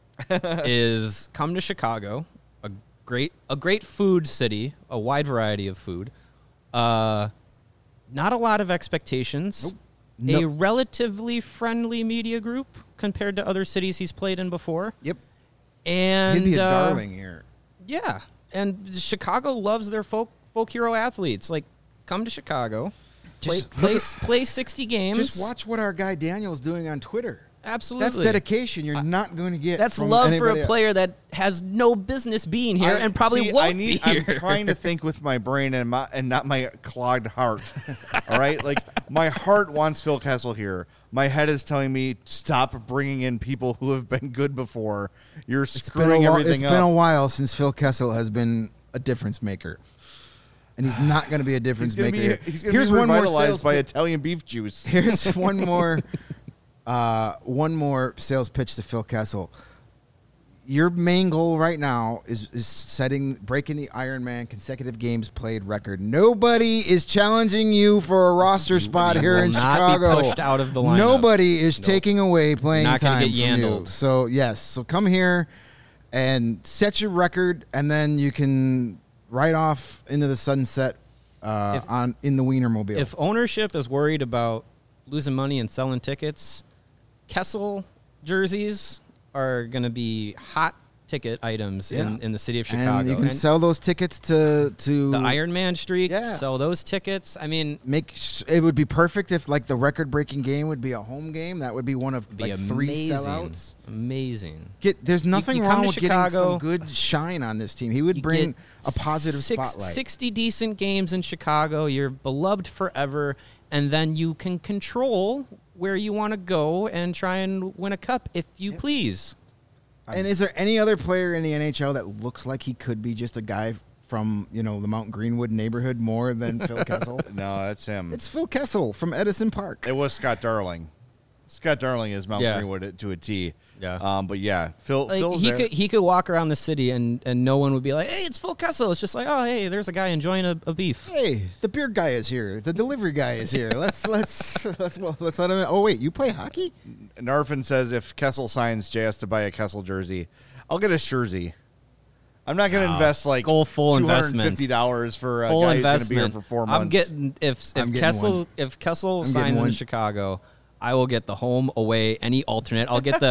is come to Chicago, a great food city, a wide variety of food. Not a lot of expectations. Nope. A relatively friendly media group compared to other cities he's played in before. Yep. And He'd be a darling here. Yeah, and Chicago loves their folk hero athletes. Like, come to Chicago, play 60 games. Just watch what our guy Daniel's doing on Twitter. Absolutely. That's dedication you're not going to get. That's from love for anybody a else. player that has no business being here and probably won't be here. I'm trying to think with my brain and not my clogged heart. All right, like my heart wants Phil Kessel here. My head is telling me stop bringing in people who have been good before. You're screwing everything It's up. been a while since Phil Kessel has been a difference maker. And he's not going to be a difference maker. He's going to be revitalized by Italian beef juice. Here's one more sales pitch to Phil Kessel. your main goal right now is breaking the Ironman consecutive games played record. Nobody is challenging you for a roster spot here in Chicago. Be pushed out of the lineup. Nobody is taking away playing not time get from you. yandled. So yes, so come here and set your record, and then you can ride off into the sunset in the Wienermobile. If ownership is worried about losing money and selling tickets, Kessel jerseys are going to be hot ticket items in the city of Chicago. And you can sell those tickets to the Ironman streak. Yeah. Sell those tickets. I mean, it would be perfect if like the record-breaking game would be a home game. That would be one of like amazing. 3 sellouts. Amazing. There's nothing you wrong come with to getting Chicago, some good shine on this team. He would bring a positive spotlight. 60 decent games in Chicago. You're beloved forever, and then you can control where you want to go and try and win a cup if you please. And is there any other player in the NHL that looks like he could be just a guy from, the Mount Greenwood neighborhood more than Phil Kessel? No, that's him. It's Phil Kessel from Edison Park. It was Scott Darling. Scott Darling is Mount Greenwood to a T. Yeah. But yeah, Phil's he there. he could walk around the city and no one would be like, hey, it's Phil Kessel. It's just like, oh, hey, there's a guy enjoying a beef. Hey, the beer guy is here. The delivery guy is here. Let's let him. Oh wait, you play hockey? Narfin says if Kessel signs, Jay has to buy a Kessel jersey. I'll get a jersey. I'm not going to invest like go full investment. $250 for a full guy investment. who's going to be here for 4 months. I'm getting if Kessel signs in Chicago, I will get the home, away, any alternate. I'll get the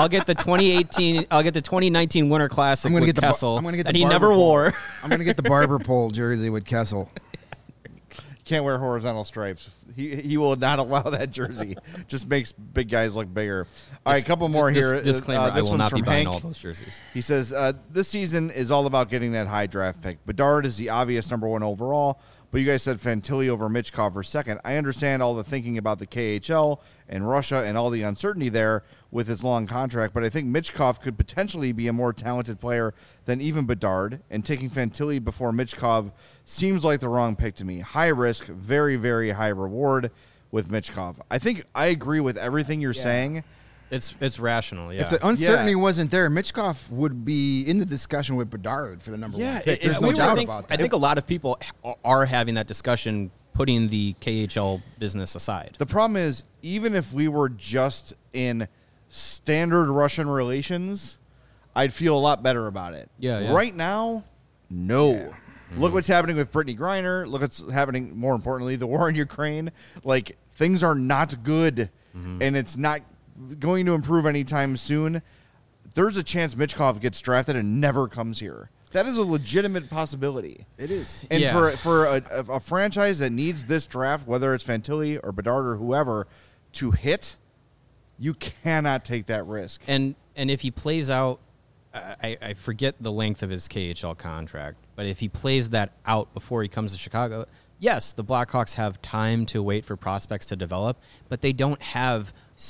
2018. I'll get the 2019 Winter Classic with Kessel. I'm going to get the that he never wore. I'm going to get the barber pole jersey with Kessel. Can't wear horizontal stripes. He will not allow that jersey. Just makes big guys look bigger. All right, a couple more here. Disclaimer: this I will one's not be from buying Hank. all those jerseys. He says this season is all about getting that high draft pick. Bedard is the obvious number 1 overall, but you guys said Fantilli over Michkov for second. I understand all the thinking about the KHL and Russia and all the uncertainty there with his long contract, but I think Michkov could potentially be a more talented player than even Bedard, and taking Fantilli before Michkov seems like the wrong pick to me. High risk, very, very high reward with Michkov. I think I agree with everything you're saying. It's rational, yeah. If the uncertainty wasn't there, Michkov would be in the discussion with Bedard for the number 1 pick. There's no doubt about that. I think a lot of people are having that discussion, putting the KHL business aside. The problem is, even if we were just in standard Russian relations, I'd feel a lot better about it. Yeah. Right now, no. Yeah. Look what's happening with Brittany Griner. Look what's happening, more importantly, the war in Ukraine. Like, things are not good, and it's not going to improve anytime soon. There's a chance Michkov gets drafted and never comes here. That is a legitimate possibility. It is. And for a franchise that needs this draft, whether it's Fantilli or Bedard or whoever, to hit, you cannot take that risk. And if he plays out, I forget the length of his KHL contract, but if he plays that out before he comes to Chicago, yes, the Blackhawks have time to wait for prospects to develop, but they don't have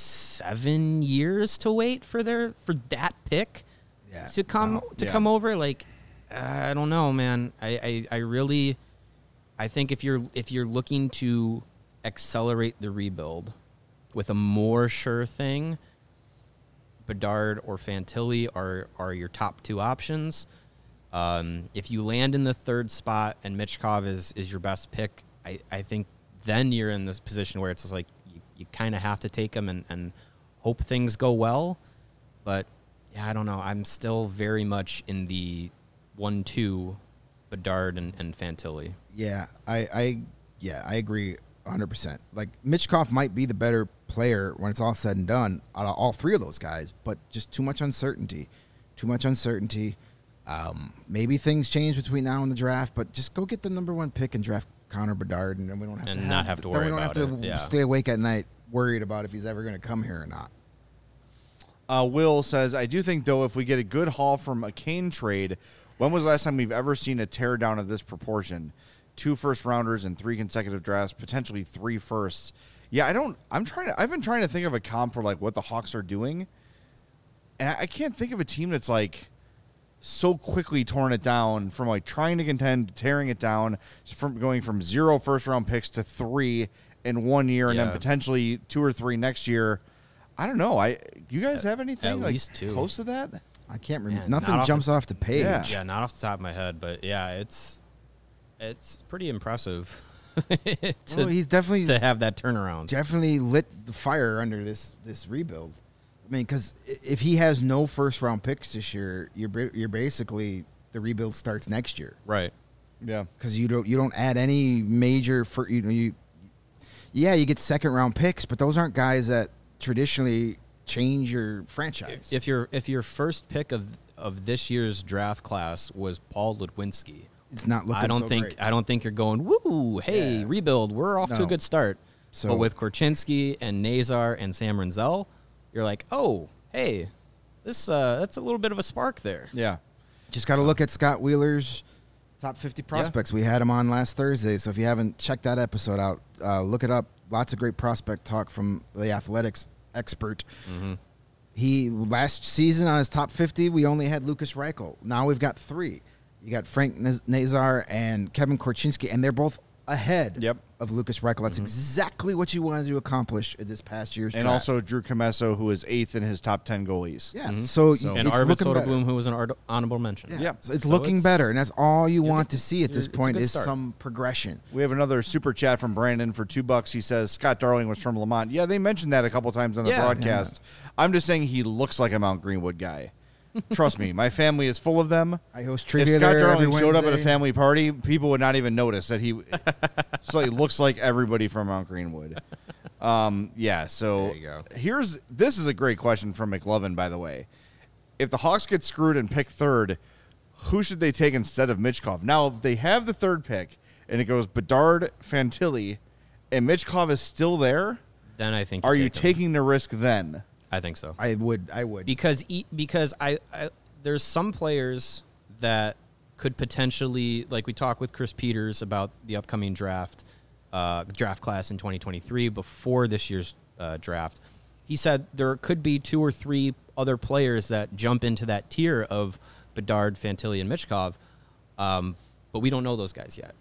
7 years to wait for that pick to come over. Like, I don't know, man. I really think if you're looking to accelerate the rebuild with a more sure thing, Bedard or Fantilli are your top 2 options. If you land in the 3rd spot and Michkov is your best pick, I think then you're in this position where it's just like you kind of have to take him and hope things go well. But yeah, I don't know. I'm still very much in the 1-2 Bedard and Fantilli. Yeah, I agree 100%. Like, Michkov might be the better player when it's all said and done out of all 3 of those guys, but just too much uncertainty. Maybe things change between now and the draft, but just go get the number 1 pick and draft Connor Bedard, and then we don't have to worry about it. We don't have to stay awake at night worried about if he's ever going to come here or not. Will says, I do think, though, if we get a good haul from a Kane trade, when was the last time we've ever seen a teardown of this proportion? 2 first-rounders and 3 consecutive drafts, potentially 3 firsts. Yeah, I've been trying to think of a comp for, like, what the Hawks are doing, and I can't think of a team that's, like, so quickly torn it down from, like, trying to contend, tearing it down, from going from 0 first-round picks to 3 in 1 year, and then potentially 2 or 3 next year. I don't know. You guys have anything at like least 2 close to that? I can't remember. Man, Nothing not off jumps the- off the page. Yeah. Yeah, not off the top of my head, but yeah, it's pretty impressive Well, he's definitely to have that turnaround. definitely lit the fire under this rebuild. I mean, because if he has no first round picks this year, you're basically the rebuild starts next year Right. Yeah. because you don't add any major for you get second round picks, but those aren't guys that traditionally change your franchise. If your first pick of this year's draft class was Paul Ludwinski, it's not looking, I don't so think great. I don't think you're going, woo, hey, Yeah. rebuild, we're off to a No. good start. So- But with Korchinski and Nazar and Sam Renzel, you're like, oh, hey, this that's a little bit of a spark there. Yeah. Just got to look at Scott Wheeler's top 50 prospects. We had him on last Thursday, so if you haven't checked that episode out, look it up. Lots of great prospect talk from the athletics expert. He last season on his top 50, we only had Lucas Reichel. Now we've got 3. You got Frank Nazar and Kevin Korchinski, and they're both ahead Yep. of Lucas Reichel. That's exactly what you wanted to accomplish in this past year's And draft. also Drew Comesso, who is 8th in his top 10 goalies. yeah, so, And it's Arvid looking better. Soderblom, who was an honorable mention. Yeah. Yeah. So it's So looking it's- better, and that's all you want to see at this it's a point good is start. some progression. We have another super chat from Brandon for $2. He says Scott Darling was from Lamont. Yeah, they mentioned that a couple times on the Yeah. broadcast. I'm just saying he looks like a Mount Greenwood guy. Trust me, my family is full of them. I host If trivia Scott there every Darling showed up at a Wednesday. family party, people would not even notice that he so he looks like everybody from Mount Greenwood. Yeah, so There you go. this is a great question from McLovin, by the way. If the Hawks get screwed and pick third, who should they take instead of Mitchkov? Now, if they have the third pick and it goes Bedard, Fantilli, and Mitchkov is still there, Then I think are you take him. taking the risk then? I think so. I would. because I there's some players that could potentially, like we talked with Chris Peters about the upcoming draft class in 2023 before this year's draft. He said there could be 2 or 3 other players that jump into that tier of Bedard, Fantilli, and Mitchkov, but we don't know those guys yet.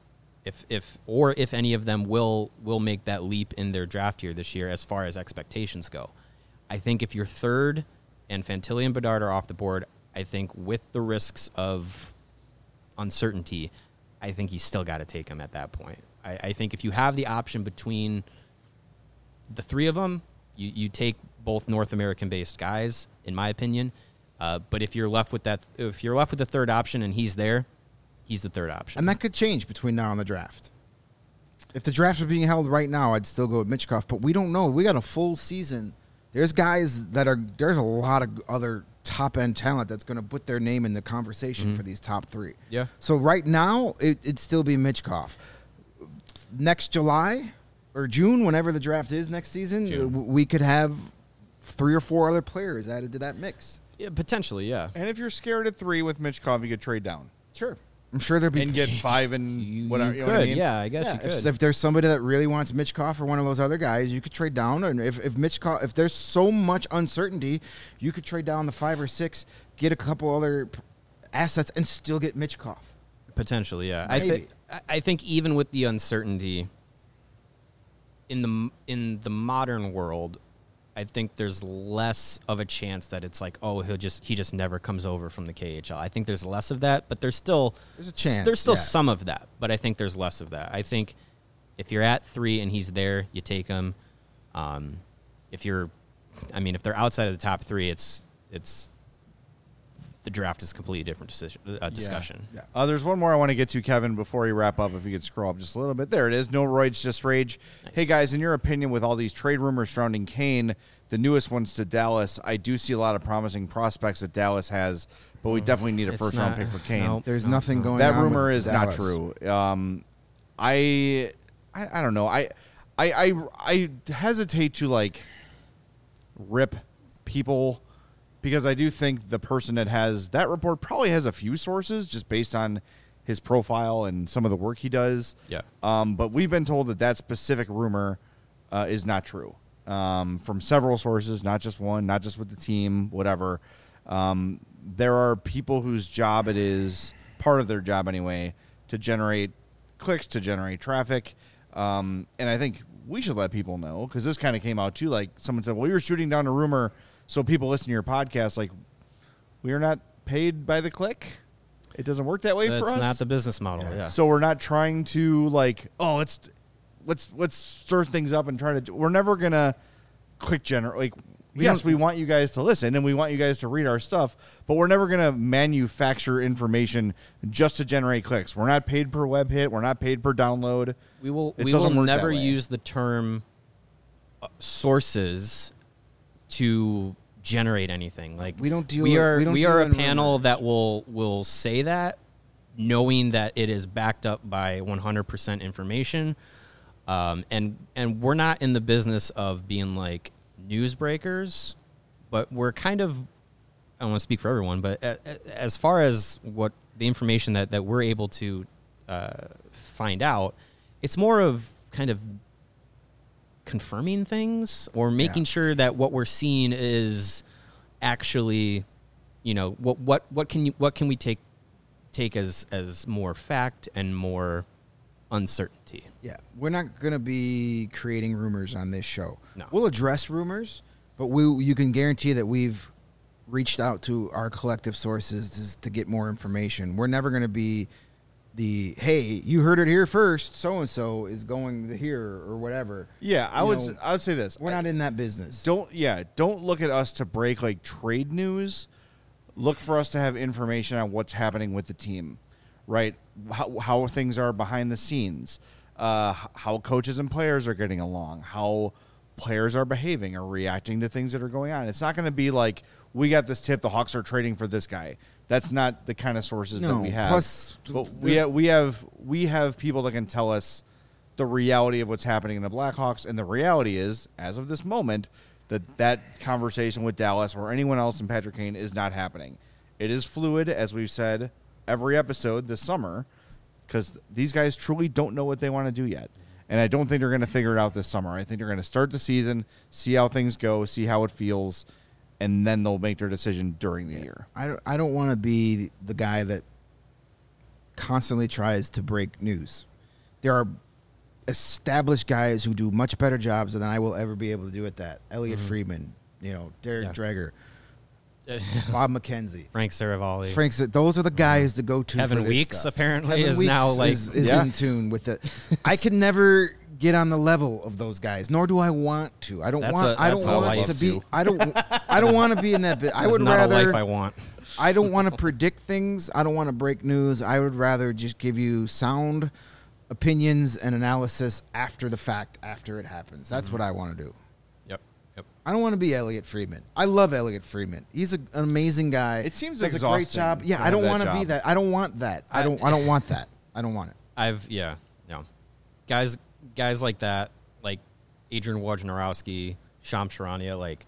If any of them will make that leap in their draft year this year as far as expectations go. I think if you're third and Fantilli and Bedard are off the board, I think with the risks of uncertainty, I think you still got to take him at that point. I think if you have the option between the 3 of them, you take both North American-based guys, in my opinion. But if you're left with the third option and he's there, he's the third option. And that could change between now and the draft. If the draft was being held right now, I'd still go with Mitchkov, but we don't know. We got a full season. There's guys there's a lot of other top-end talent that's going to put their name in the conversation for these top 3. Yeah. So right now, it'd still be Mitchkov. Next July or June, whenever the draft is next season, we could have 3 or 4 other players added to that mix. Yeah, potentially, yeah. And if you're scared at 3 with Mitchkov, you could trade down Sure. I'm sure there'll be and get 5 and whatever. You know what I mean? Yeah, I guess Yeah, you could. if there's somebody that really wants Mitchkov or one of those other guys, you could trade down. And if there's so much uncertainty, you could trade down the 5 or 6, get a couple other assets, and still get Mitchkov. Potentially, yeah. Maybe. I think even with the uncertainty in the modern world, I think there's less of a chance that it's like, oh, he just never comes over from the KHL. I think there's less of that, but there's still There's a chance, There's still yeah. some of that, but I think there's less of that. I think if you're at 3 and he's there, you take him. If they're outside of the top 3, it's the draft is a completely different discussion. Yeah. There's one more I want to get to, Kevin, before you wrap up. If you could scroll up just a little bit. There it is. No Roids, just rage. Nice. Hey, guys, in your opinion, with all these trade rumors surrounding Kane, the newest ones to Dallas, I do see a lot of promising prospects that Dallas has, but we definitely need a It's first-round not- pick for Kane. no. There's nothing going That on. rumor with is not Dallas. true. I don't know. I hesitate to like rip people because I do think the person that has that report probably has a few sources just based on his profile and some of the work he does. Yeah. But we've been told that specific rumor is not true from several sources, not just one, not just with the team, whatever. There are people whose job it is, part of their job anyway, to generate clicks, to generate traffic. And I think we should let people know because this kind of came out too. Like someone said, well, you're shooting down a rumor so people listen to your podcast. Like, We are not paid by the click. It doesn't work that way for us. That's not the business model. Yeah. So we're not trying to let's stir things up and try to. We're never gonna click generate. We want you guys to listen and we want you guys to read our stuff, but we're never gonna manufacture information just to generate clicks. We're not paid per web hit. We're not paid per download. We will It doesn't work never that way. use the term sources to generate anything. Like We don't deal we with- are we don't we deal are a in panel rumors. that will say that, knowing that it is backed up by 100% information, and we're not in the business of being like newsbreakers, but we're kind of, I don't want to speak for everyone, but as far as what the information that we're able to find out, it's more of kind of confirming things or making sure that what we're seeing is actually, what can we take as more fact and more uncertainty. Yeah, we're not going to be creating rumors on this show. No. We'll address rumors, but you can guarantee that we've reached out to our collective sources to get more information. We're never going to be hey, you heard it here first, so-and-so is going here or whatever. Yeah, I would say this. We're not in that business. Don't look at us to break like trade news. Look for us to have information on what's happening with the team, right? How things are behind the scenes, how coaches and players are getting along, how players are behaving or reacting to things that are going on. It's not going to be like, we got this tip, the Hawks are trading for this guy. That's not the kind of sources that we have. Plus, but we have people that can tell us the reality of what's happening in the Blackhawks, and the reality is, as of this moment, that conversation with Dallas or anyone else in Patrick Kane is not happening. It is fluid, as we've said every episode this summer, because these guys truly don't know what they want to do yet. And I don't think they're going to figure it out this summer. I think they're going to start the season, see how things go, see how it feels, and then they'll make their decision during the year. I don't want to be the guy that constantly tries to break news. There are established guys who do much better jobs than I will ever be able to do at that. Elliot Friedman, Derek Dreger, Bob McKenzie, Frank Saravalli. Those are the guys to go to. Kevin for this Weeks stuff. apparently Kevin is Weeks now like is Yeah. in tune with it. I can never get on the level of those guys, nor do I want to. I don't That's want. a- I don't that's a want life to be. too. I don't want to be in that bit. I That's would not rather. a life I want. I don't want to predict things. I don't want to break news. I would rather just give you sound opinions and analysis after the fact, after it happens. That's what I want to do. Yep. I don't want to be Elliot Friedman. I love Elliot Friedman. He's an amazing guy. It seems does a great exhausting job. Yeah, to I don't have want that to be job. that. I don't want that. I don't want that. I don't want it. Guys like that, like Adrian Wojnarowski, Sham Charania, like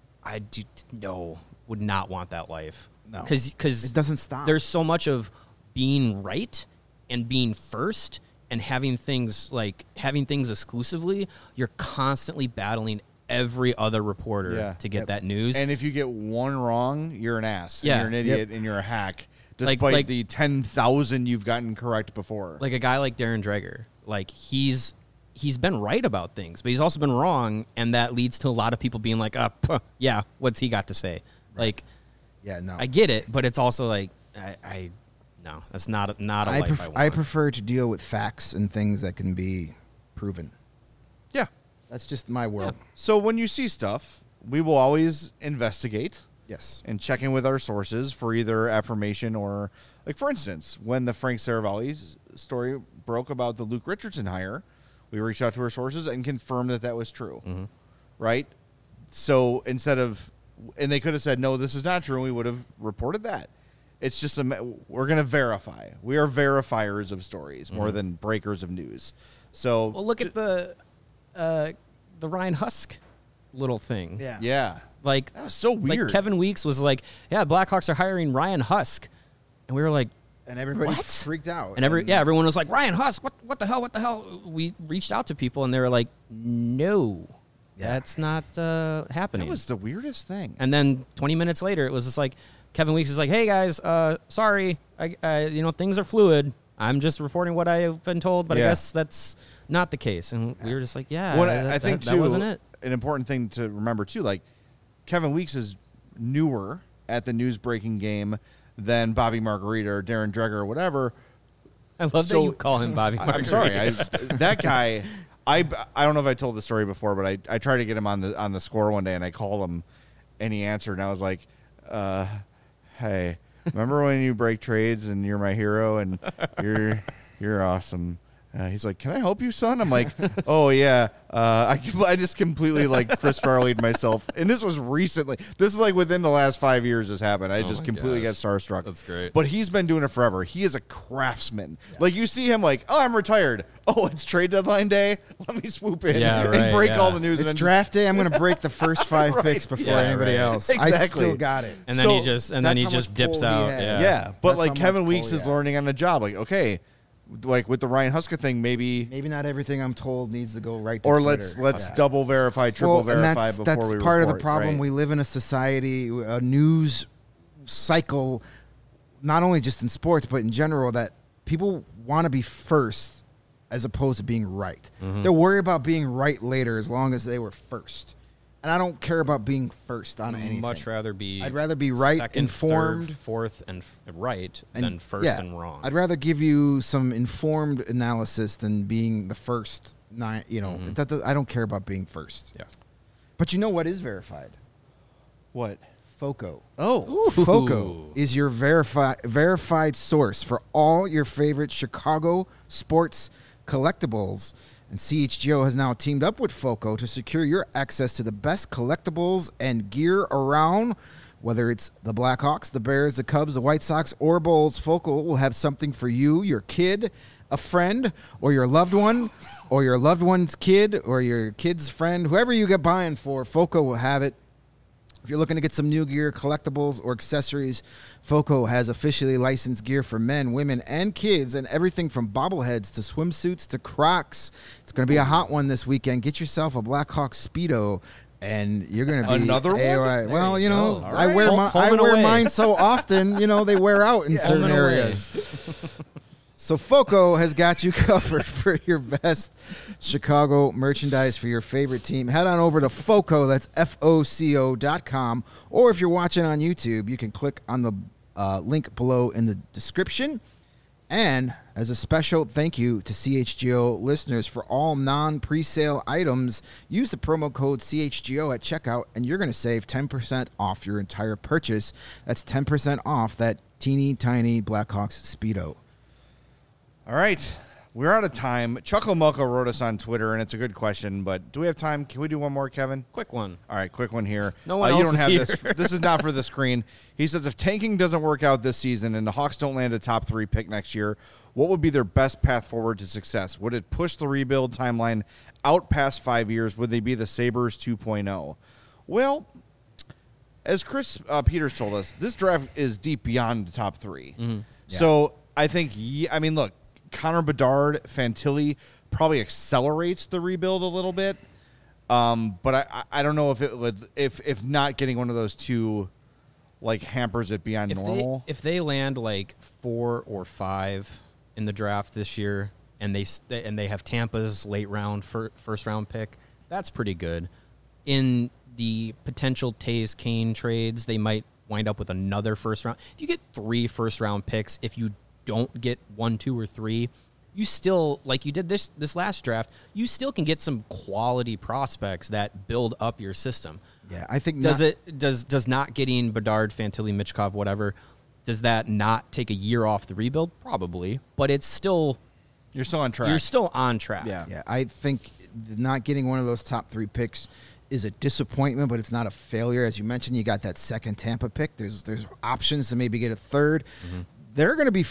would not want that life. No. Because It doesn't stop. There's so much of being right and being first and having things exclusively. You're constantly battling every other reporter to get that news. And if you get one wrong, you're an ass. Yeah. And you're an idiot and you're a hack, despite Like- the 10,000 you've gotten correct before. Like a guy like Darren Dreger, like he's been right about things, but he's also been wrong, and that leads to a lot of people being like, yeah, what's he got to say? Like, Yeah, no. I get it, but it's also like, no, that's not a life I want. I prefer to deal with facts and things that can be proven. Yeah. That's just my world. So when you see stuff, we will always investigate Yes. and check in with our sources for either affirmation or, like, for instance, when the Frank Saravalli story broke about the Luke Richardson hire, we reached out to our sources and confirmed that was true. Mm-hmm. Right? So instead of, and they could have said, no, this is not true, and we would have reported that. It's just, we're going to verify. We are verifiers of stories more than breakers of news. So, Well, look at the Ryan Husk little thing. Yeah. yeah. Like, That was so weird. Like Kevin Weeks was like, yeah, Blackhawks are hiring Ryan Husk. And we were like, And everybody What? freaked out. and everyone was like, Ryan Husk, what the hell? We reached out to people and they were like, no, that's not happening. That was the weirdest thing. And then 20 minutes later, it was just like, Kevin Weeks is like, hey guys, sorry, I things are fluid. I'm just reporting what I've been told, but I Yeah. guess that's not the case. And we were just like, yeah, Well, that, I think that too, wasn't it. an important thing to remember too, like Kevin Weeks is newer at the news breaking game than Bobby Margarita or Darren Dreger or whatever. I love that you call him Bobby Margarita. I'm sorry, that guy. I don't know if I told the story before, but I tried to get him on the score one day, and I called him, and he answered, and I was like, "Hey, remember when you break trades and you're my hero and you're awesome." He's like, "Can I help you, son?" I'm like, "Oh yeah." I just completely like Chris Farley'd myself, and this was recently. This is like within the last 5 years this happened. I just completely got starstruck. That's great. But he's been doing it forever. He is a craftsman. Yeah. Like you see him, like, "Oh, I'm retired. Oh, it's trade deadline day. Let me swoop in and break all the news." It's and draft day. I'm going to break the first 5 picks before anybody else. Exactly. I still got it. And then he just dips out. Yeah, but That's like how Kevin much Weeks pull is he has. learning on the job. Like, okay, like with the Ryan Huska thing, maybe Maybe not everything I'm told needs to go right to or Twitter. let's double verify, triple verify and before that's we part of the report, problem. right? We live in a society, a news cycle, not only just in sports but in general, that people want to be first as opposed to being right. They'll worry about being right later as long as they were first. And I don't care about being first on anything. I'd rather be right, second, informed, third, fourth, and right than first and wrong. I'd rather give you some informed analysis than being the first. I don't care about being first. Yeah. But you know what is verified? What? FOCO. Oh, FOCO is your verified source for all your favorite Chicago sports collectibles. And CHGO has now teamed up with FOCO to secure your access to the best collectibles and gear around. Whether it's the Blackhawks, the Bears, the Cubs, the White Sox, or Bulls, FOCO will have something for you, your kid, a friend, or your loved one, or your loved one's kid, or your kid's friend. Whoever you get buying for, FOCO will have it. If you're looking to get some new gear, collectibles, or accessories, FOCO has officially licensed gear for men, women, and kids, and everything from bobbleheads to swimsuits to Crocs. It's going to be a hot one this weekend. Get yourself a Blackhawk Speedo, and you're going to be another one. AOI. Well, you know, All I right. wear mine so often. You know, they wear out in certain areas. So FOCO has got you covered for your best Chicago merchandise for your favorite team. Head on over to FOCO, that's FOCO.com, or if you're watching on YouTube, you can click on the link below in the description. And as a special thank you to CHGO listeners for all non-presale items, use the promo code CHGO at checkout, and you're going to save 10% off your entire purchase. That's 10% off that teeny tiny Blackhawks Speedo. All right. We're out of time. Chuckle Mucko wrote us on Twitter, and it's a good question, but do we have time? Can we do one more, Kevin? Quick one. All right, quick one here. No one you else don't is have here. this. This is not for the screen. He says, if tanking doesn't work out this season and the Hawks don't land a top 3 pick next year, what would be their best path forward to success? Would it push the rebuild timeline out past 5 years? Would they be the Sabres 2.0? Well, as Chris Peters told us, this draft is deep beyond the top 3. Yeah. So I think, look, Connor Bedard, Fantilli probably accelerates the rebuild a little bit. But I don't know if it would, if not getting one of those two like hampers it beyond normal. If they land like 4 or 5 in the draft this year, and they have Tampa's late round first round pick, that's pretty good. In the potential Taves Kane trades, they might wind up with another first round. If you get 3 first round picks, if you don't get 1, 2, or 3, you still, like you did this last draft, you still can get some quality prospects that build up your system. Yeah, I think does not getting Bedard, Fantilli, Michkov, whatever, does that not take a year off the rebuild? Probably, but it's still You're still on track. You're still on track. Yeah, I think not getting one of those top 3 picks is a disappointment, but it's not a failure. As you mentioned, you got that second Tampa pick. There's options to maybe get a third. Mm-hmm. There are going to be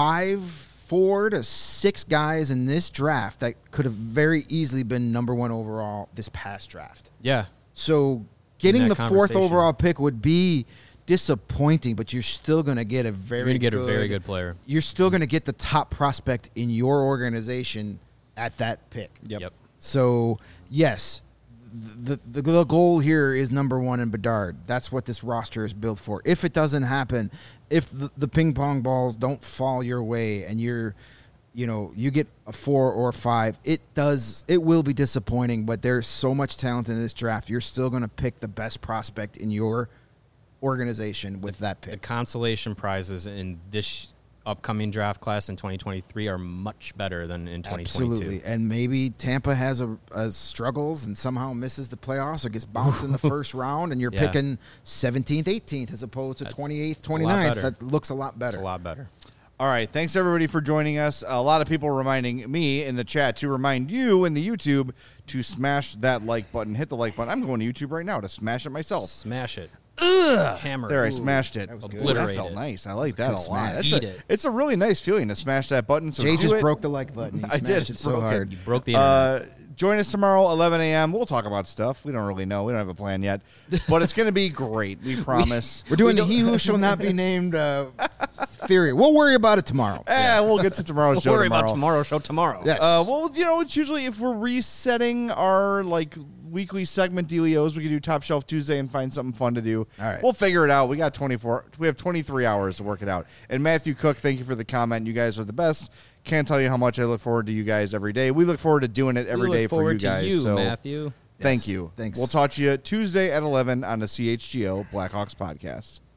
4 to 6 guys in this draft that could have very easily been number 1 overall this past draft. Yeah. So getting the 4th conversation. overall pick would be disappointing, but you're still going to get a very good player. You're still going to get the top prospect in your organization at that pick. Yep. So, yes, the goal here is number 1 in Bedard. That's what this roster is built for. If it doesn't happen, if the ping pong balls don't fall your way and you get a 4 or 5, it will be disappointing, but there's so much talent in this draft. You're still going to pick the best prospect in your organization with that The pick. consolation prizes in this upcoming draft class in 2023 are much better than in 2022. Absolutely. And maybe Tampa has a struggles and somehow misses the playoffs or gets bounced in the first round, and you're Yeah. picking 17th, 18th as opposed to 28th, a lot 29th. better. That looks a lot better. It's a lot better. All right. Thanks, everybody, for joining us. A lot of people reminding me in the chat to remind you in the YouTube to smash that like button. Hit the like button. I'm going to YouTube right now to smash it myself. Smash it. Hammer. There, I Ooh. smashed it. that was good. Ooh, that Obliterate felt it. nice. I like that a good lot. smash. That's Eat a- it. It's a really nice feeling to smash that button. So Jay do just it. broke the like button. He I did. smashed it It's so broken. hard. You broke the internet. Join us tomorrow, 11 a.m. We'll talk about stuff. We don't really know. We don't have a plan yet. But it's going to be great. We promise. We're doing the He Who Shall Not Be Named theory. We'll worry about it tomorrow. We'll get to tomorrow's We'll show worry tomorrow. about tomorrow's show tomorrow. Yes. Well, it's usually if we're resetting our weekly segment dealios, we can do Top Shelf Tuesday and find something fun to do. All right. We'll figure it out. We got 23 hours to work it out. And Matthew Cook, thank you for the comment. You guys are the best. Can't tell you how much I look forward to you guys every day. We look forward to doing it every We day look for you forward to guys. you, so Matthew. thank Yes. you. Thanks. We'll talk to you Tuesday at 11 on the CHGO Blackhawks podcast.